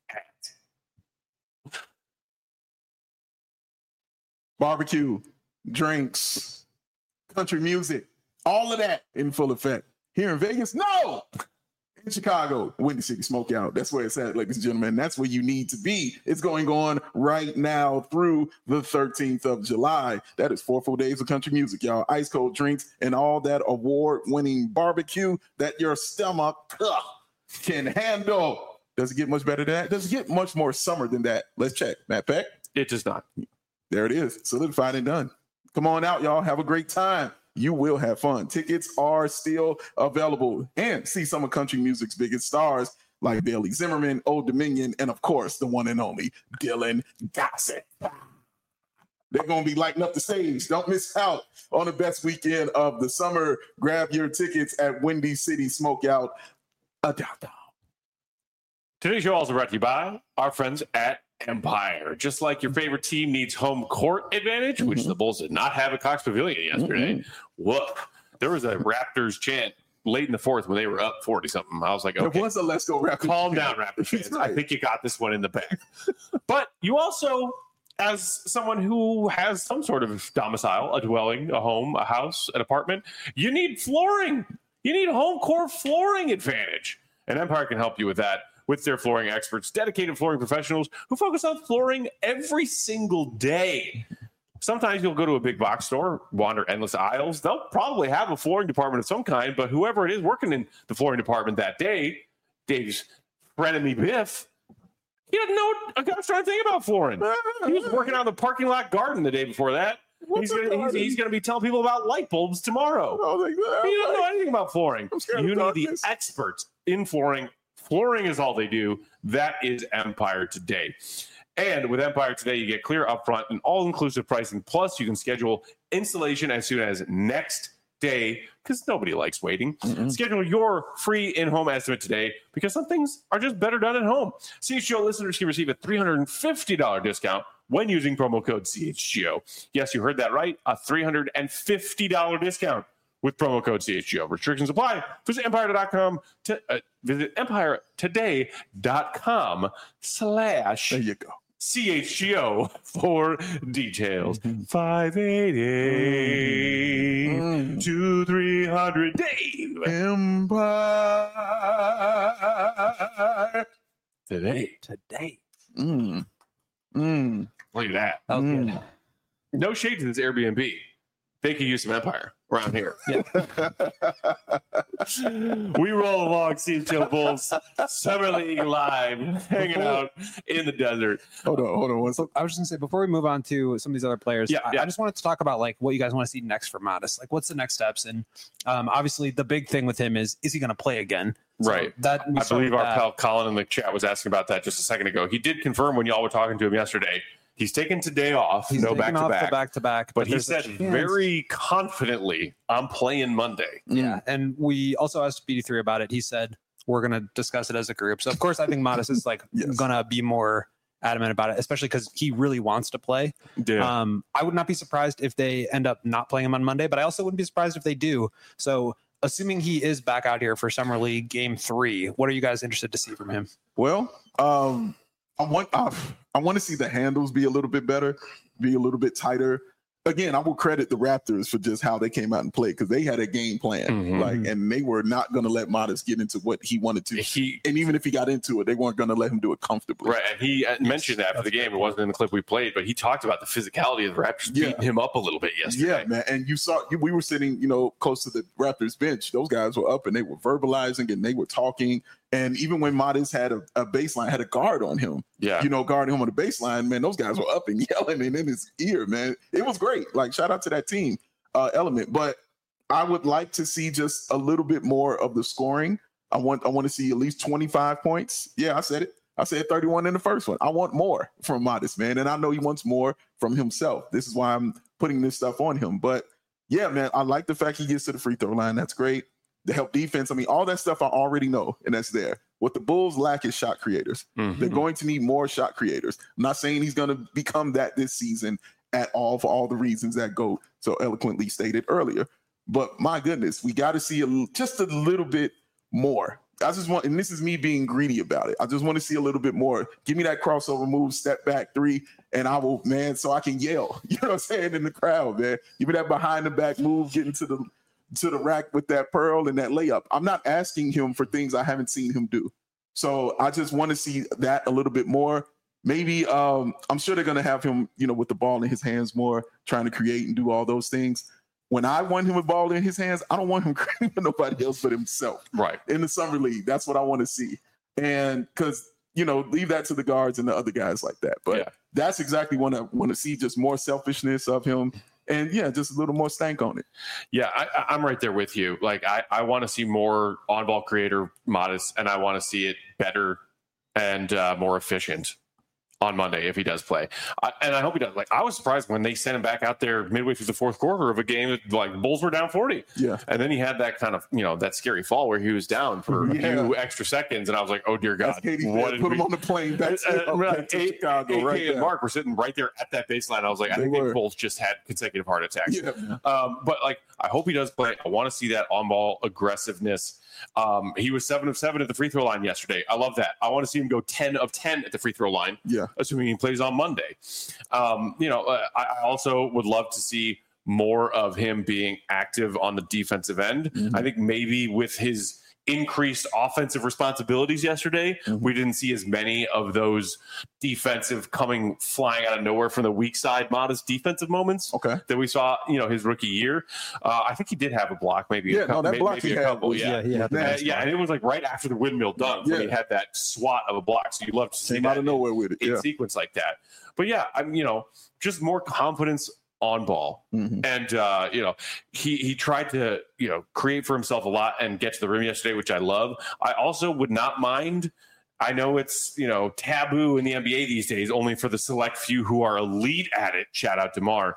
Barbecue, drinks, country music, all of that in full effect. Here in Vegas, no! In Chicago, Windy City Smokeout. That's where it's at, ladies and gentlemen. That's where you need to be. It's going on right now through the thirteenth of July. That is four full days of country music, y'all. Ice cold drinks and all that award-winning barbecue that your stomach ugh, can handle. Does it get much better than that? Does it get much more summer than that? Let's check. Matt Peck? It does not. There it is. Solidified and done. Come on out, y'all. Have a great time. You will have fun. Tickets are still available. And see some of country music's biggest stars like Bailey Zimmerman, Old Dominion, and of course, the one and only Dylan Gossett. They're going to be lighting up the stage. Don't miss out on the best weekend of the summer. Grab your tickets at Windy City Smokeout. Today's show also brought to you by our friends at Empire. Just like your favorite team needs home court advantage, mm-hmm. which the Bulls did not have at Cox Pavilion yesterday. Mm-hmm. Woof. There was a Raptors chant late in the fourth when they were up forty something. I was like, okay, there was a let's go Raptors. Calm down, Raptors fans. Right. I think you got this one in the bag. But you also, as someone who has some sort of domicile, a dwelling, a home, a house, an apartment, you need flooring. You need home court flooring advantage. And Empire can help you with that. With their flooring experts, dedicated flooring professionals who focus on flooring every single day. Sometimes you'll go to a big box store, wander endless aisles. They'll probably have a flooring department of some kind, but whoever it is working in the flooring department that day, Dave's frenemy Biff, he didn't know a gosh darn thing about flooring. He was working on the parking lot garden the day before that. He's gonna, he's, he's gonna be telling people about light bulbs tomorrow. I was like, "Ah, You don't like, know anything about flooring. I'm scared of You need the darkness." experts in flooring. Flooring is all they do. That is Empire Today. And with Empire Today, you get clear upfront and all-inclusive pricing. Plus, you can schedule installation as soon as next day because nobody likes waiting. Mm-mm. Schedule your free in-home estimate today because some things are just better done at home. C H G O listeners can receive a three hundred fifty dollars discount when using promo code C H G O. Yes, you heard that right. A three hundred fifty dollars discount with promo code C H G O. Restrictions apply. Visit empire dot com to uh, visit empire today dot com slash there you go. C H G O for details. five eighty-eight Mm. to three hundred Dave. Empire Today. Today. Mm. Mm. Look at that. That was Mm. good. No shade to this Airbnb. They could use some Empire around here. Yeah. We roll along, C H O Bulls, Summer League Live, hanging out in the desert. Hold on, hold on. One second. I was just gonna say before we move on to some of these other players, Yeah, I, yeah. I just wanted to talk about like what you guys want to see next for Modest. Like, what's the next steps? And um, obviously, the big thing with him is is he going to play again? So Right. That we I start believe with our that. pal Colin in the chat was asking about that just a second ago. He did confirm when y'all were talking to him yesterday. He's taken today off, He's no taking back to off the back. back to back, But he there's a said chance- very confidently, I'm playing Monday. Yeah, and we also asked B D three about it. He said we're going to discuss it as a group. So of course, I think Modest is like Yes. going to be more adamant about it, especially because he really wants to play. Yeah. Um, I would not be surprised if they end up not playing him on Monday, but I also wouldn't be surprised if they do. So assuming he is back out here for Summer League Game Three, what are you guys interested to see from him? Well, um, I want I, I want to see the handles be a little bit better, be a little bit tighter. Again, I will credit the Raptors for just how they came out and played because they had a game plan, Mhm. like, and they were not going to let Modest get into what he wanted to. He And even if he got into it, they weren't going to let him do it comfortably. Right, and he uh, mentioned after the game, it wasn't in the clip we played, but he talked about the physicality of the Raptors Yeah. beating him up a little bit yesterday. Yeah, man. And you saw we were sitting, you know, close to the Raptors bench. Those guys were up and they were verbalizing and they were talking. And even when Modest had a, a baseline, had a guard on him, Yeah. you know, guarding him on the baseline, man, those guys were up and yelling and in his ear, man. It was great. Like, shout out to that team uh, element. But I would like to see just a little bit more of the scoring. I want I want to see at least twenty-five points. Yeah, I said it. I said thirty-one in the first one. I want more from Modest, man. And I know he wants more from himself. This is why I'm putting this stuff on him. But yeah, man, I like the fact he gets to the free throw line. That's great. The help defense. I mean, all that stuff I already know, and that's there. What the Bulls lack is shot creators. Mhm. They're going to need more shot creators. I'm not saying he's going to become that this season at all for all the reasons that Goat so eloquently stated earlier. But my goodness, we got to see a, l- just a little bit more. I just want, and this is me being greedy about it. I just want to see a little bit more. Give me that crossover move, step back three, and I will, man, so I can yell. You know what I'm saying, in the crowd, man. Give me that behind the back move, getting to the to the rack with that pearl and that layup. I'm not asking him for things I haven't seen him do. So I just want to see that a little bit more. Maybe um, I'm sure they're going to have him, you know, with the ball in his hands more, trying to create and do all those things. When I want him with ball in his hands, I don't want him creating for nobody else but himself. Right. In the summer league, that's what I want to see. And because, you know, leave that to the guards and the other guys like that. But Yeah. that's exactly what I want to see, just more selfishness of him. And yeah, just a little more stank on it. Yeah, I, I- I'm right there with you. Like, I, I want to see more on-ball creator Modest, and I want to see it better and uh, more efficient on Monday if he does play. I, and I hope he does. Like, I was surprised when they sent him back out there midway through the fourth quarter of a game that, like, the Bulls were down forty. Yeah. And then he had that kind of, you know, that scary fall where he was down for a Yeah. few extra seconds, and I was like, oh, dear God. That's Katie what said, did put we- him on the plane back to, Uh, uh, back like, to A- Chicago A K right and there. Mark were sitting right there at that baseline. I was like, I They think they were. both just had consecutive heart attacks. Yeah. Um, but like, I hope he does play. I want to see that on-ball aggressiveness. Um, he was seven of seven at the free throw line yesterday. I love that. I want to see him go ten of ten at the free throw line, Yeah. assuming he plays on Monday. Um, you know, uh, I I also would love to see more of him being active on the defensive end. Mhm. I think maybe with his increased offensive responsibilities yesterday, Mhm. we didn't see as many of those defensive coming flying out of nowhere from the weak side Modest defensive moments Okay. that we saw, you know, his rookie year. Uh, I think he did have a block, maybe Yeah, a no, couple, that maybe, block maybe he a had couple, was- yeah. he had the Uh, best yeah, one. and it was like right after the windmill dunk when he Yeah. had that swat of a block. So you love to see Came that out of nowhere with it. in Yeah. sequence like that. But yeah, I'm, you know, just more confidence on ball. Mm-hmm. And, uh, you know, he, he tried to, you know, create for himself a lot and get to the rim yesterday, which I love. I also would not mind. I know it's, you know, taboo in the N B A these days, only for the select few who are elite at it. Shout out to Mar.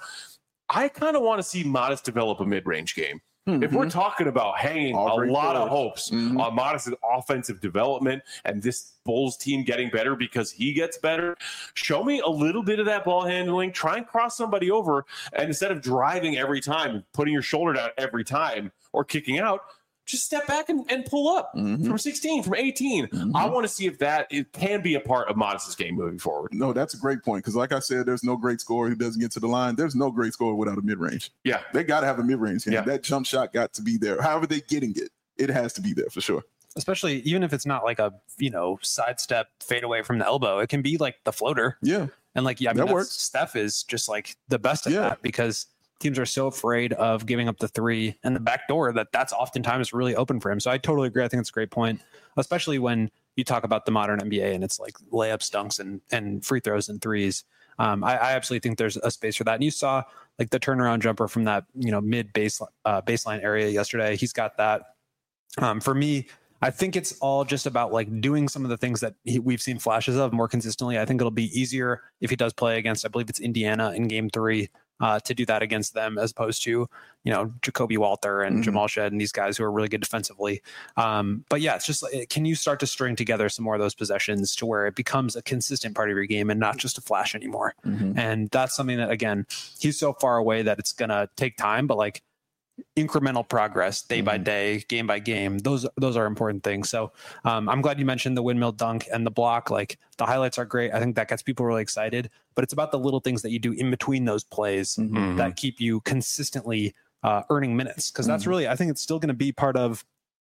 I kind of want to see Modest develop a mid-range game. Mm-hmm. If we're talking about hanging All a lot of hopes mm-hmm. on Modest's offensive development and this Bulls team getting better because he gets better, show me a little bit of that ball handling. Try and cross somebody over, and instead of driving every time, putting your shoulder down every time, or kicking out, just step back and, and pull up mm-hmm. from sixteen, from eighteen. Mm-hmm. I want to see if that it can be a part of Modest's game moving forward. No, that's a great point. Because like I said, there's no great scorer who doesn't get to the line. There's no great scorer without a mid-range. Yeah. They got to have a mid-range. Yeah. That jump shot got to be there. However they're getting it, it has to be there for sure. Especially even if it's not like a, you know, sidestep fade away from the elbow, it can be like the floater. Yeah. And like, yeah, I mean, that works. Steph is just like the best at yeah. that because teams are so afraid of giving up the three and the back door that that's oftentimes really open for him. So I totally agree. I think it's a great point, especially when you talk about the modern N B A and it's like layups, dunks, and, and free throws and threes. Um, I, I absolutely think there's a space for that. And you saw like the turnaround jumper from that, you know, mid base uh, baseline area yesterday. He's got that. Um, for me, I think it's all just about like doing some of the things that he, we've seen flashes of more consistently. I think it'll be easier if he does play against, I believe it's Indiana in game three, uh, to do that against them as opposed to, you know, Jacoby Walter and mm-hmm. Jamal Shed and these guys who are really good defensively. Um, but yeah, it's just like, can you start to string together some more of those possessions to where it becomes a consistent part of your game and not just a flash anymore? Mm-hmm. And that's something that, again, he's so far away that it's going to take time, but like, incremental progress day mm-hmm. by day, game by game. Those those are important things. So um, I'm glad you mentioned the windmill dunk and the block. Like the highlights are great. I think that gets people really excited, but it's about the little things that you do in between those plays mm-hmm. that keep you consistently uh, earning minutes. Cause that's mm-hmm. really, I think it's still going to be part of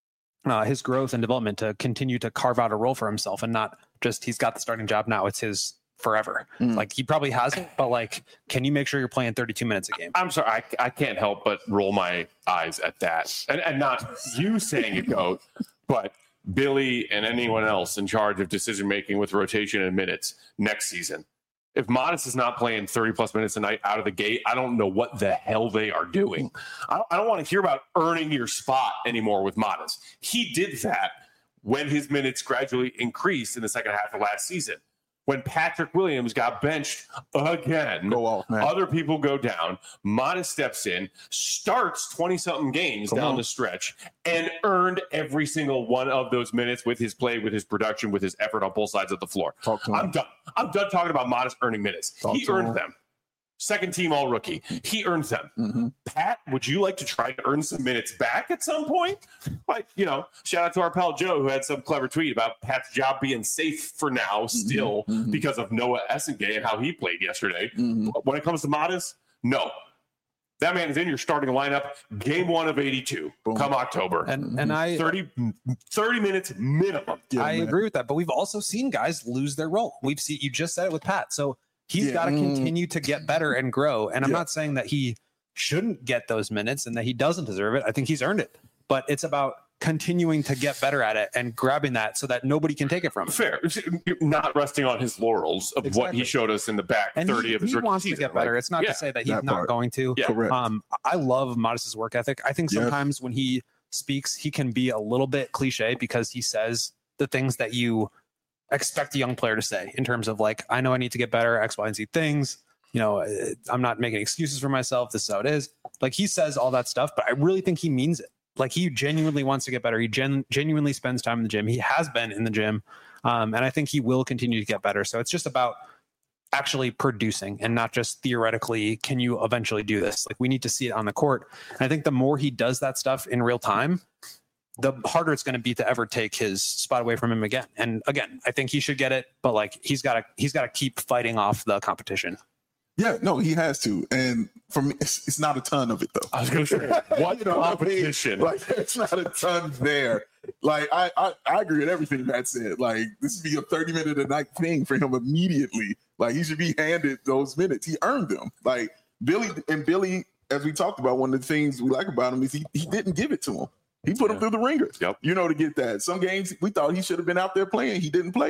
uh, his growth and development to continue to carve out a role for himself and not just, he's got the starting job now. It's his forever. Mm. Like he probably hasn't, but like, can you make sure you're playing thirty-two minutes a game? I'm sorry. I, I can't help but roll my eyes at that. And, and not you saying it, GOAT, but Billy and anyone else in charge of decision-making with rotation and minutes next season. If Modest is not playing thirty plus minutes a night out of the gate, I don't know what the hell they are doing. I don't, I don't want to hear about earning your spot anymore with Modest. He did that when his minutes gradually increased in the second half of last season. When Patrick Williams got benched again, go off, man. Other people go down. Modest steps in, starts twenty-something games Come down on. the stretch, and earned every single one of those minutes with his play, with his production, with his effort on both sides of the floor. I'm done. I'm done talking about Modest earning minutes. Talk he earned him. them. Second team all rookie. He earned them. Mm-hmm. Pat, would you like to try to earn some minutes back at some point? Like, you know, shout out to our pal Joe who had some clever tweet about Pat's job being safe for now still mm-hmm. because of Noah Essengay and how he played yesterday. Mm-hmm. When it comes to Modest, no. That man is in your starting lineup game one of eighty-two Boom. come October. And and I thirty, thirty minutes minimum. Yeah, I man. agree with that. But we've also seen guys lose their role. We've seen, you just said it with Pat. So he's yeah. got to continue to get better and grow. And I'm yeah. not saying that he shouldn't get those minutes and that he doesn't deserve it. I think he's earned it. But it's about continuing to get better at it and grabbing that so that nobody can take it from him. Fair. Not resting on his laurels of exactly. what he showed us in the back and thirty he, of his he rookie wants season. to get better. Like, it's not yeah, to say that he's that not part. going to. Yeah. Correct. Um, I love Modest's work ethic. I think sometimes yeah. when he speaks, he can be a little bit cliche because he says the things that you expect a young player to say in terms of like, I know I need to get better, X, Y, and Z things. You know, I'm not making excuses for myself. This is how it is. Like he says all that stuff, but I really think he means it. Like he genuinely wants to get better. He gen- genuinely spends time in the gym. He has been in the gym. Um, and I think he will continue to get better. So it's just about actually producing and not just theoretically, can you eventually do this? Like we need to see it on the court. And I think the more he does that stuff in real time, the harder it's going to be to ever take his spot away from him again. And again, I think he should get it, but like he's got to, he's got to keep fighting off the competition. Yeah, no, he has to. And for me, it's, it's not a ton of it, though. I was going to say, what you know, competition? I mean, like, there's not a ton there. Like, I, I, I agree with everything Matt said. Like, this would be a thirty-minute-a-night thing for him immediately. Like, he should be handed those minutes. He earned them. Like, Billy, and Billy, as we talked about, one of the things we like about him is he, he didn't give it to him. He put yeah. him through the ringer, yep. you know, to get that. Some games we thought he should have been out there playing. He didn't play.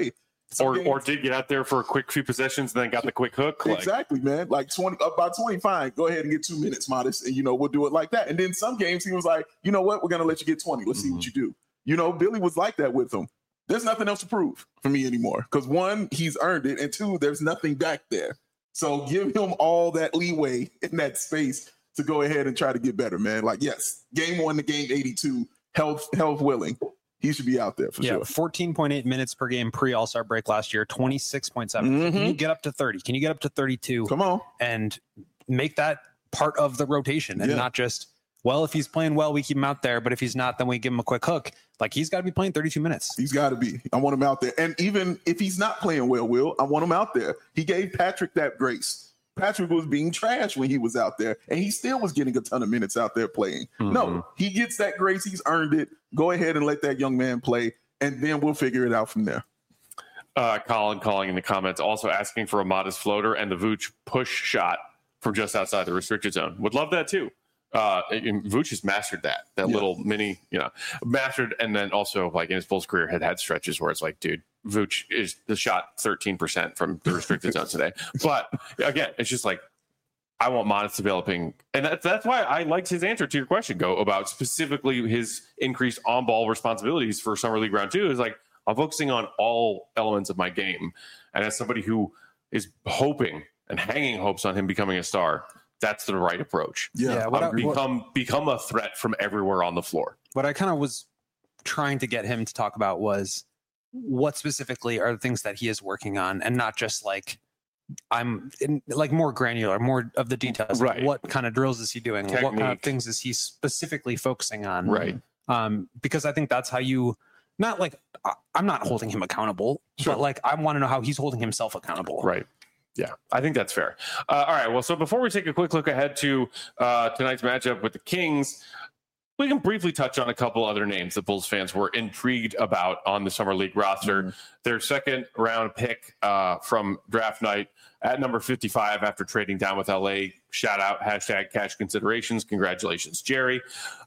Some Or games- or did get out there for a quick few possessions and then got the quick hook. Like, Exactly, man. Like twenty, up by twenty, fine. Go ahead and get two minutes, Modest, and you know we'll do it like that. And then some games he was like, you know what, we're gonna let you get twenty. Let's see what you do. You know, Billy was like that with him. There's nothing else to prove for me anymore because one, he's earned it, and two, there's nothing back there. So give him all that leeway in that space to go ahead and try to get better, man. Like, yes, game one to game eighty-two, health health willing. He should be out there for Yeah, sure. fourteen point eight minutes per game pre All Star break last year, twenty-six point seven. Mhm. Can you get up to thirty? Can you get up to thirty-two Come on. and make that part of the rotation and Yeah. not just, well, if he's playing well, we keep him out there, but if he's not, then we give him a quick hook. Like, he's got to be playing thirty-two minutes. He's got to be. I want him out there. And even if he's not playing well, Will, I want him out there. He gave Patrick that grace. Patrick was being trash when he was out there, and he still was getting a ton of minutes out there playing. No, he gets that grace. He's earned it. Go ahead and let that young man play, and then we'll figure it out from there. Uh, Colin calling in the comments, also asking for a Modest floater and the Vooch push shot from just outside the restricted zone. Would love that too. Uh, and Vooch has mastered that, that Yeah. little mini, you know, mastered. And then also, like in his Bulls career, had had stretches where it's like, dude, Vooch is the shot thirteen percent from the restricted zone today. But again, it's just like, I want Modest developing. And that's, that's why I liked his answer to your question, Go, about specifically his increased on ball responsibilities for Summer League round two. Is like, I'm focusing on all elements of my game. And as somebody who is hoping and hanging hopes on him becoming a star, that's the right approach. Yeah, Yeah, what Um, I- what- become become a threat from everywhere on the floor. What I kind of was trying to get him to talk about was what specifically are the things that he is working on, and not just like I'm in, like more granular, more of the details. Like, Right. what kind of drills is he doing? What kind of Technique. things is he specifically focusing on? Right. Um, because I think that's how you, not like I- I'm not holding him accountable, Sure. but like I want to know how he's holding himself accountable. Right. Yeah, I think that's fair. Uh, all right. Well, so before we take a quick look ahead to uh, tonight's matchup with the Kings, we can briefly touch on a couple other names that Bulls fans were intrigued about on the Summer League roster. Mm-hmm. Their second round pick uh, from draft night at number fifty-five after trading down with L A. Shout out, hashtag cash considerations. Congratulations, Jerry.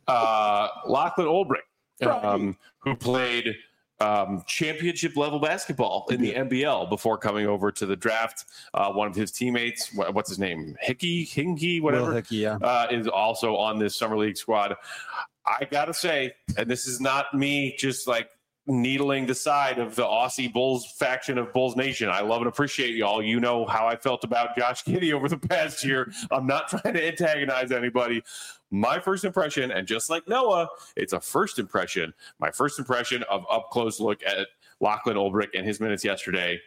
Uh, Lachlan Olbrich, um, who played um, championship level basketball in the N B L before coming over to the draft. Uh, one of his teammates, what, what's his name? Hickey, Hinky, whatever, Will Hickey, yeah. uh, is also on this Summer League squad. I gotta say, and this is not me just like needling the side of the Aussie Bulls faction of Bulls Nation. I love and appreciate y'all. You know how I felt about Josh Giddey over the past year. I'm not trying to antagonize anybody. My first impression, and just like Noah, it's a first impression. My first impression of up close look at Lachlan Olbrich and his minutes yesterday.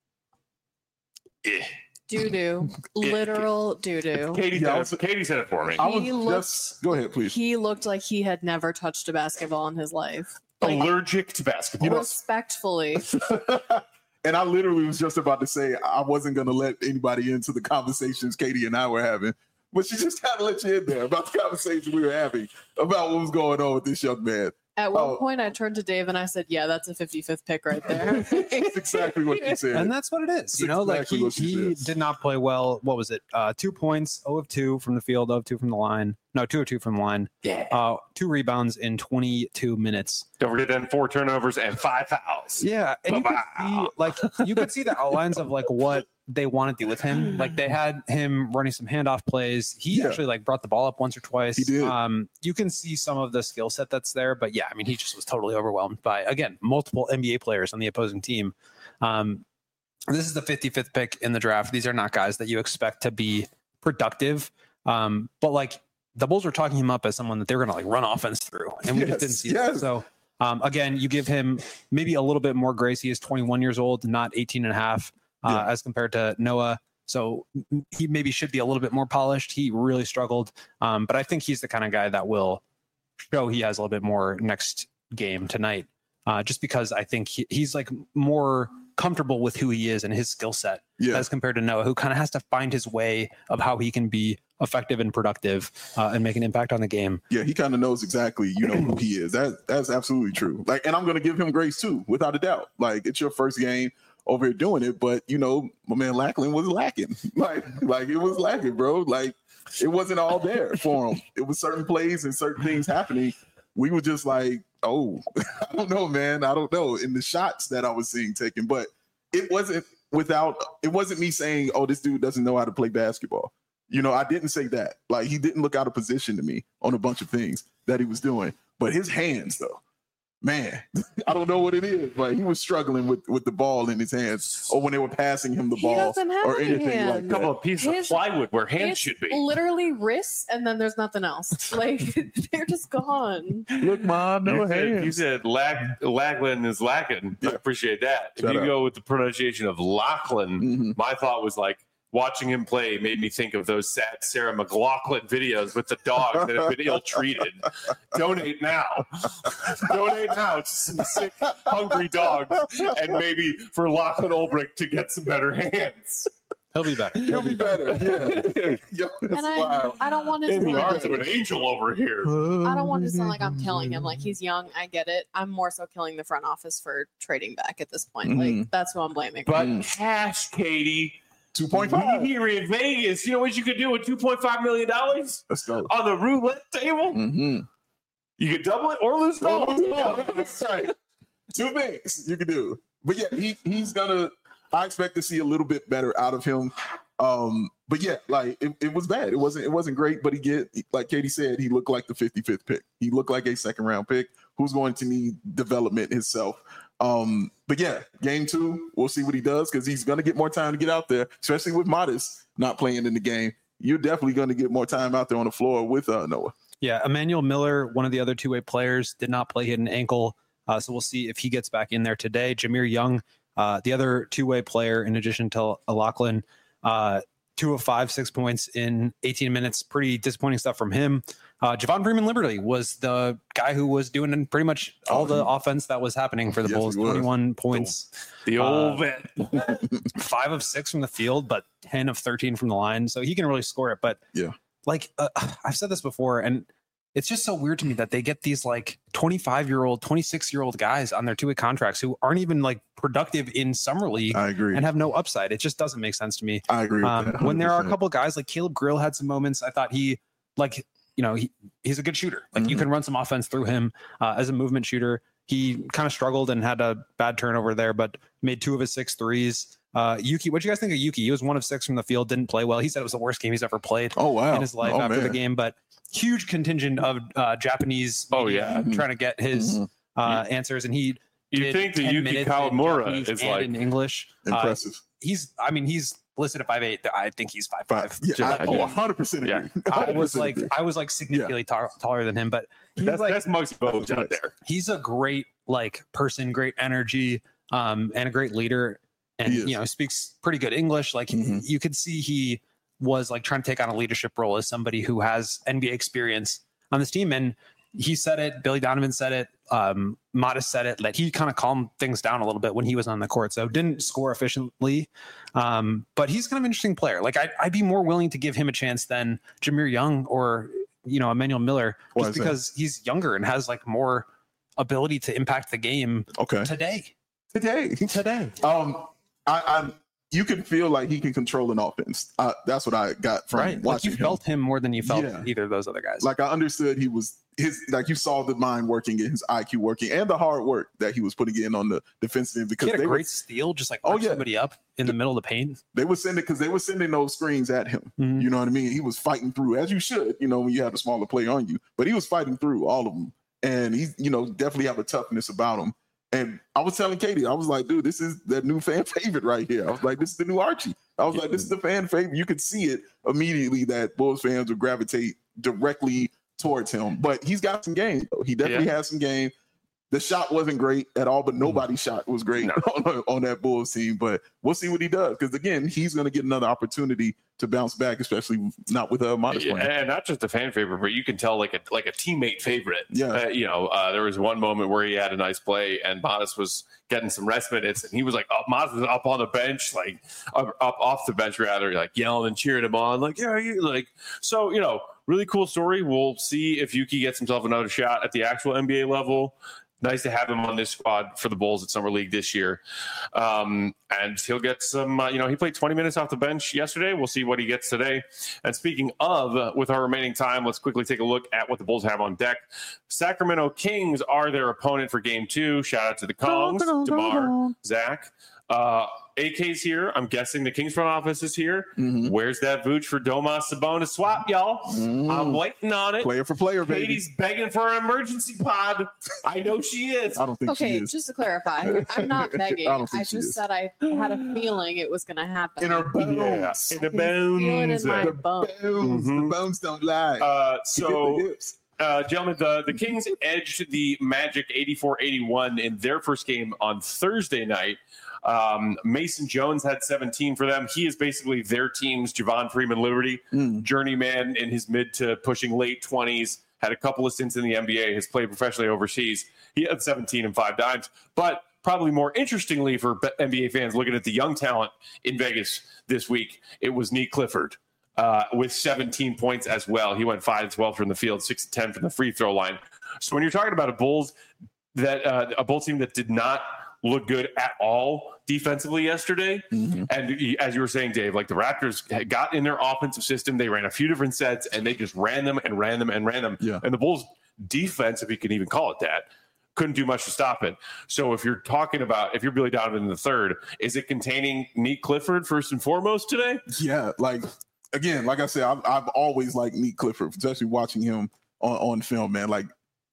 Eh. Doo doo, literal doo doo. Katie, Yeah, I said was- it, Katie said it for me. I was He looks- just go ahead, please. He looked like he had never touched a basketball in his life. Like, Allergic to basketball. respectfully. And I literally was just about to say I wasn't going to let anybody into the conversations Katie and I were having, but she just kind of let you in there about the conversation we were having about what was going on with this young man. At one Oh. point, I turned to Dave and I said, "Yeah, that's a fifty-fifth pick right there." That's exactly what you said. And that's what it is. You know, like exactly he, what she he said. did not play well. What was it? Uh, two points, zero of two from the field, zero of two from the line. No, two of two from the line. Yeah. Uh, two rebounds in twenty-two minutes. Don't forget then four turnovers and five fouls. Yeah, and you could see, Wow. like you could see the outlines of like what they want to do with him. Like they had him running some handoff plays. He Yeah. actually like brought the ball up once or twice. He did. Um, you can see some of the skill set that's there, but yeah, I mean, he just was totally overwhelmed by again multiple N B A players on the opposing team. Um, this is the fifty-fifth pick in the draft. These are not guys that you expect to be productive. Um, but like the Bulls were talking him up as someone that they were going to like run offense through, and we Yes, just didn't see yes. that. So um, again, you give him maybe a little bit more grace. He is twenty-one years old, not eighteen and a half, uh, Yeah. as compared to Noah. So he maybe should be a little bit more polished. He really struggled. Um, but I think he's the kind of guy that will show he has a little bit more next game tonight. Uh, just because I think he, he's like more comfortable with who he is and his skill set Yeah. as compared to Noah, who kind of has to find his way of how he can be effective and productive uh, and make an impact on the game. Yeah, he kind of knows exactly, you know, who he is. That that's absolutely true. Like, and I'm going to give him grace too, without a doubt. Like, it's your first game over here doing it, but you know, my man Lachlan was lacking. Like, like it was lacking, bro. Like, it wasn't all there for him. It was certain plays and certain things happening. We were just like, oh, I don't know, man. I don't know. In the shots that I was seeing taken, but it wasn't without, it wasn't me saying, oh, this dude doesn't know how to play basketball. You know, I didn't say that. Like, he didn't look out of position to me on a bunch of things that he was doing. But his hands, though, man, I don't know what it is, but he was struggling with, with the ball in his hands, or when they were passing him the He ball, doesn't have or any anything hands. like A that. couple of pieces His- of plywood where hands It's should be. literally wrists, and then there's nothing else. Like they're just gone. Look, mom, no you said, you hands. said Lack, Lachlan is lacking. I Yeah. appreciate that. If Shout you out. go with the pronunciation of Lachlan, Mhm. my thought was like, watching him play made me think of those sad Sarah McLaughlin videos with the dogs that have been ill-treated. Donate now. Donate now to some sick, hungry dogs, and maybe for Lachlan Ulbrich to get some better hands. He'll be back. He'll be better. Yeah. Yo, that's And I, wild. I don't want to. In the sound arms of like, an angel over here. I don't want to sound like I'm killing him. Like he's young. I get it. I'm more so killing the front office for trading back at this point. Like Mhm. that's who I'm blaming. But Mm. cash, Katie. two point five. Here in Vegas, you know what you could do with two point five million dollars Let's go. on the roulette table? Mm-hmm. You could double it or lose it all. That's right. Two things you can do. But yeah, he he's gonna. I expect to see a little bit better out of him. Um, but yeah, like it, it was bad. It wasn't it wasn't great, but he get like Katie said, he looked like the fifty-fifth pick. He looked like a second round pick who's going to need development himself. Um, but yeah, game two, we'll see what he does because he's gonna get more time to get out there, especially with Modest not playing in the game. You're definitely gonna get more time out there on the floor with uh, Noah. Yeah, Emmanuel Miller, one of the other two-way players, did not play. He had an ankle, uh, so we'll see if he gets back in there today. Jameer Young, uh, the other two-way player, in addition to Lachlan, uh, two of five, six points in eighteen minutes. Pretty disappointing stuff from him. Uh, Javon Freeman Liberty was the guy who was doing pretty much all the offense that was happening for the Yes, Bulls. he was. twenty-one points, The old Uh, vet. five of six from the field, but ten of thirteen from the line. So he can really score it. But Yeah. like uh, I've said this before, and it's just so weird to me that they get these like twenty-five year old, twenty-six year old guys on their two way contracts who aren't even like productive in summer league I agree. and have no upside. It just doesn't make sense to me. I agree with Um, that. when there are a one hundred percent. couple guys like Caleb Grill had some moments, I thought he like, you know, he, he's a good shooter. Like you Mhm. can run some offense through him uh, as a movement shooter. He kind of struggled and had a bad turnover there, but made two of his six threes. Uh, Yuki, what do you guys think of Yuki? He was one of six from the field, didn't play well. He said it was the worst game he's ever played Oh wow! in his life oh, after the man. game, but huge contingent of uh, Japanese Oh, media yeah. trying to get his Mhm. uh, answers, and he You did think that ten Yuki minutes in Kawamura Japanese is and like in English. Uh, Impressive. he's, I mean, he's listed at five eight. I think he's five Five. five. Yeah, I, I oh, do. one hundred percent Yeah. agree. I was one hundred percent like, agree. I was like significantly tar- taller than him, but he's that's, like, that's Muggsy Bogues out there. he's a great like person, great energy, um, and a great leader, and He is. you know speaks pretty good English. Like Mhm. you could see he was like trying to take on a leadership role as somebody who has N B A experience on this team, and he said it. Billy Donovan said it. Um, Modest said it. That he kind of calmed things down a little bit when he was on the court. So didn't score efficiently, um, but he's kind of an interesting player. Like I'd, I'd be more willing to give him a chance than Jameer Young or you know Emmanuel Miller, Why just is that? because he's younger and has like more ability to impact the game Okay. today. Today. Today. Um, I, I, you can feel like he can control an offense. Uh, that's what I got from Right. Like watching you him. felt him more than you felt Yeah. either of those other guys. Like I understood he was his, like you saw the mind working and his I Q working and the hard work that he was putting in on the defensive end he because had they a were, great steal, just like Oh, arch yeah. somebody up in the middle of the paint. they were sending because they were sending those screens at him. Mhm. You know what I mean? He was fighting through as you should, you know, when you have a smaller player on you, but he was fighting through all of them. And he's, you know, definitely have a toughness about him. And I was telling Katie, I was like, dude, this is the new fan favorite right here. I was like, this is the new Archie. I was like, this is the fan favorite. You could see it immediately that Bulls fans would gravitate directly towards him. But he's got some game, though. He definitely has some game. The shot wasn't great at all, but nobody's shot was great No. on, on that Bulls team. But we'll see what he does. Because, again, he's going to get another opportunity to bounce back, especially not with a Modest Yeah, playing. and not just a fan favorite, but you can tell like a like a teammate favorite. Yeah. Uh, you know, uh, there was one moment where he had a nice play, and Modest was getting some rest minutes, and he was like up, Modest was up on the bench, like up, up off the bench rather, like yelling and cheering him on, like yeah, you like so you know, really cool story. We'll see if Yuki gets himself another shot at the actual N B A level. Nice to have him on this squad for the Bulls at Summer League this year. Um, and he'll get some, uh, you know, he played twenty minutes off the bench yesterday. We'll see what he gets today. And speaking of, uh, with our remaining time, let's quickly take a look at what the Bulls have on deck. Sacramento Kings are their opponent for game two. Shout out to the Kongs, DeMar, Zach. Uh, A K's here. I'm guessing the Kings front office is here. Mhm. Where's that Vooch for Domas Sabonis swap, y'all? Mm. I'm waiting on it. Player for player, baby. Katie's begging for an emergency pod. I know she is. I don't think she Okay, is. just to clarify, I'm not begging. I I, don't think she just is. said I had a feeling it was going to happen. In her bones. In the I feel it bones. in my The bones. bones. Mhm. The bones don't lie. Uh, She hit the so, hips. uh, gentlemen, the, the Kings edged the Magic eighty-four eighty-one in their first game on Thursday night. Um, Mason Jones had seventeen for them. He is basically their team's Javon Freeman Liberty, Mm. journeyman in his mid to pushing late twenties, had a couple of stints in the N B A, has played professionally overseas. He had seventeen and five dimes. But probably more interestingly for N B A fans looking at the young talent in Vegas this week, it was Neat Clifford. Uh, with seventeen points as well. He went five and twelve from the field, six and ten from the free throw line. So when you're talking about a Bulls that uh, a Bulls team that did not look good at all defensively yesterday, Mhm. and as you were saying, Dave, like the Raptors had got in their offensive system, they ran a few different sets, and they just ran them and ran them and ran them. Yeah. And the Bulls defense, if you can even call it that, couldn't do much to stop it. So if you're talking about, if you're Billy Donovan in the third, is it containing Neat Clifford first and foremost today? Yeah, like again, like I said, I've, I've always liked Neat Clifford, especially watching him on, on film, man. Like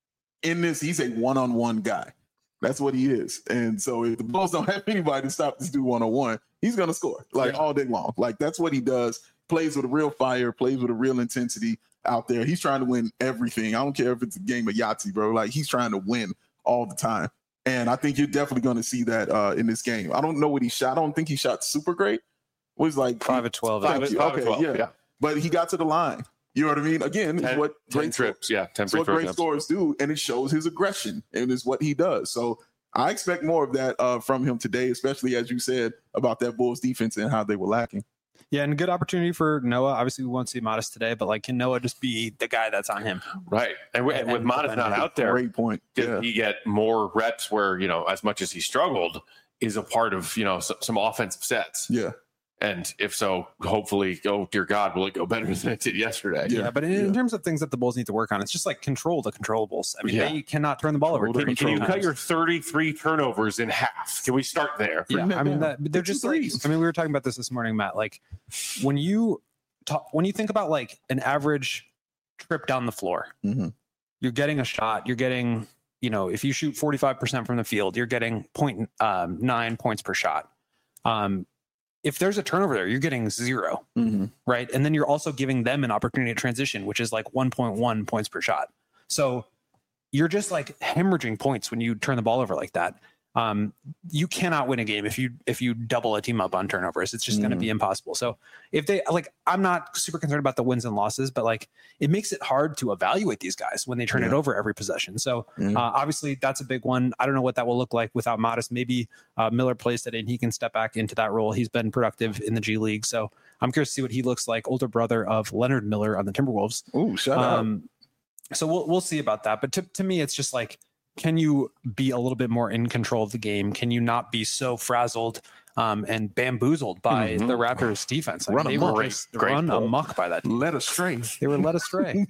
in this, he's a one-on-one guy. That's what he is. And so if the Bulls don't have anybody to stop this dude one-on-one, he's going to score like Yeah. all day long. Like that's what he does. Plays with a real fire, plays with a real intensity out there. He's trying to win everything. I don't care if it's a game of Yahtzee, bro. Like he's trying to win all the time. And I think you're definitely going to see that uh, in this game. I don't know what he shot. I don't think he shot super great. It was like Five of twelve. Thank Five- you. five of Okay, twelve, yeah. yeah. But he got to the line. You know what I mean? Again, it's ten, what ten great trips, yeah, ten it's free what throw great attempts. scorers do, and it shows his aggression, and it's what he does. So I expect more of that uh, from him today, especially as you said about that Bulls defense and how they were lacking. Yeah, and good opportunity for Noah. Obviously, we won't see Modest today, but like, can Noah just be the guy that's on him? Right. And, with- and with And Modest not defender. out there, Great point. did Yeah. he get more reps where, you know, as much as he struggled, is a part of, you know, s- some offensive sets? Yeah. And if so, hopefully, oh dear God, will it go better than it did yesterday? Yeah. Yeah, but in, yeah. in terms of things that the Bulls need to work on, it's just like control the controllables. I mean, Yeah. they cannot turn the ball over. Control the Can, can you Control. cut your thirty-three turnovers in half? Can we start there? Yeah, Bring that I mean, down. that, they're Get your just like, threes. I mean, we were talking about this this morning, Matt. Like, when you talk, when you think about like an average trip down the floor, Mhm. you're getting a shot, you're getting, you know, if you shoot forty-five percent from the field, you're getting point um, nine points per shot. Um, if there's a turnover there, you're getting zero, Mhm. right? And then you're also giving them an opportunity to transition, which is like one point one points per shot. So you're just like hemorrhaging points when you turn the ball over like that. Um, you cannot win a game if you if you double a team up on turnovers. It's just going to be impossible. So if they like, I'm not super concerned about the wins and losses, but like it makes it hard to evaluate these guys when they turn it Yeah. over every possession. So Mhm. uh, obviously that's a big one. I don't know what that will look like without Modest. Maybe uh, Miller plays today and he can step back into that role. He's been productive in the G League, so I'm curious to see what he looks like. Older brother of Leonard Miller on the Timberwolves. Ooh, shout out. Um, so we'll we'll see about that. But to to me, it's just like, can you be a little bit more in control of the game? Can you not be so frazzled um, and bamboozled by Mhm. the Raptors' defense? I Run mean, they amok. were just Great run goal. amok by that. Let us stray. They were led astray.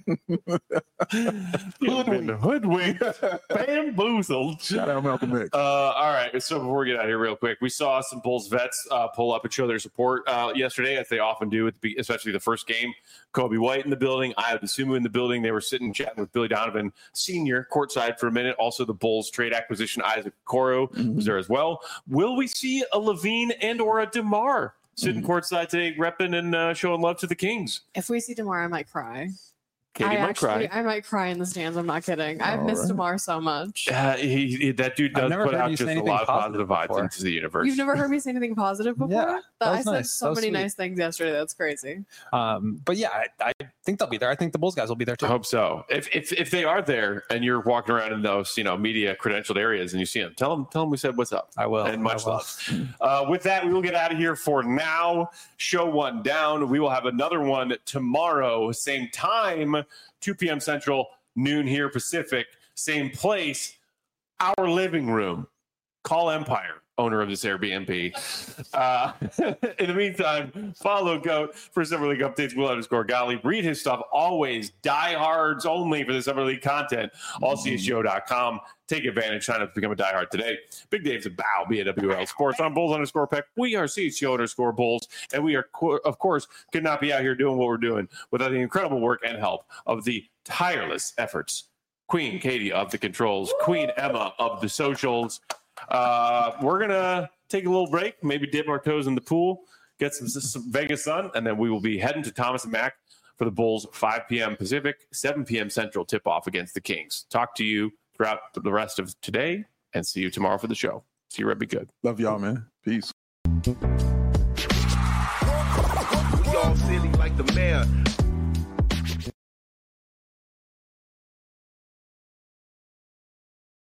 Hoodwinked, hoodwinked, bamboozled. Shout out Malcolm X. Uh, all right. So before we get out of here, real quick, we saw some Bulls vets uh, pull up and show their support uh, yesterday, as they often do, at the, especially the first game. Kobe White in the building, Ayo Dosunmu in the building. They were sitting chatting with Billy Donovan Senior courtside for a minute. Also, the Bulls trade acquisition Isaac Okoro was there as well. Will we see a Levine and or a DeMar sitting courtside today, repping and uh, showing love to the Kings? If we see DeMar, I might cry. Katie I might actually, cry. I might cry in the stands. I'm not kidding. I've All missed right. DeMar so much. Uh, he, he- that dude I've does never put heard out you say just a anything lot of positive positive vibes before. into the universe. You've never heard me say anything positive before? Yeah, that But I was said nice. so That was many sweet. nice things yesterday. That's crazy. Um, but yeah, I, I think they'll be there. I think the Bulls guys will be there I too. hope so. If, if if they are there and you're walking around in those, you know, media credentialed areas and you see them, tell them tell them we said what's up. I will. And much I will. love. Uh, with that, we will get out of here for now. Show one down. We will have another one tomorrow, same time, two p.m. Central, noon here Pacific, same place, our living room. Call Empire. owner of this Airbnb. Uh, in the meantime, follow Goat for Summer League updates. Will underscore Gottlieb. Read his stuff. Always diehards only for the Summer League content. all c s g o dot com. Take advantage. Sign up to become a diehard today. Big Dave's a bow. B A W L Sports. I'm Bulls underscore Peck. We are C H G O underscore Bulls. And we are, of course, could not be out here doing what we're doing without the incredible work and help of the tireless efforts. Queen Katie of the controls. Queen Emma of the socials. Uh, we're going to take a little break, maybe dip our toes in the pool, get some, some Vegas sun, and then we will be heading to Thomas and Mack for the Bulls, five p.m. Pacific, seven p.m. Central tip-off against the Kings. Talk to you throughout the rest of today, and see you tomorrow for the show. See you, Red. Be good. Love y'all, man. Peace. We all silly like the mayor.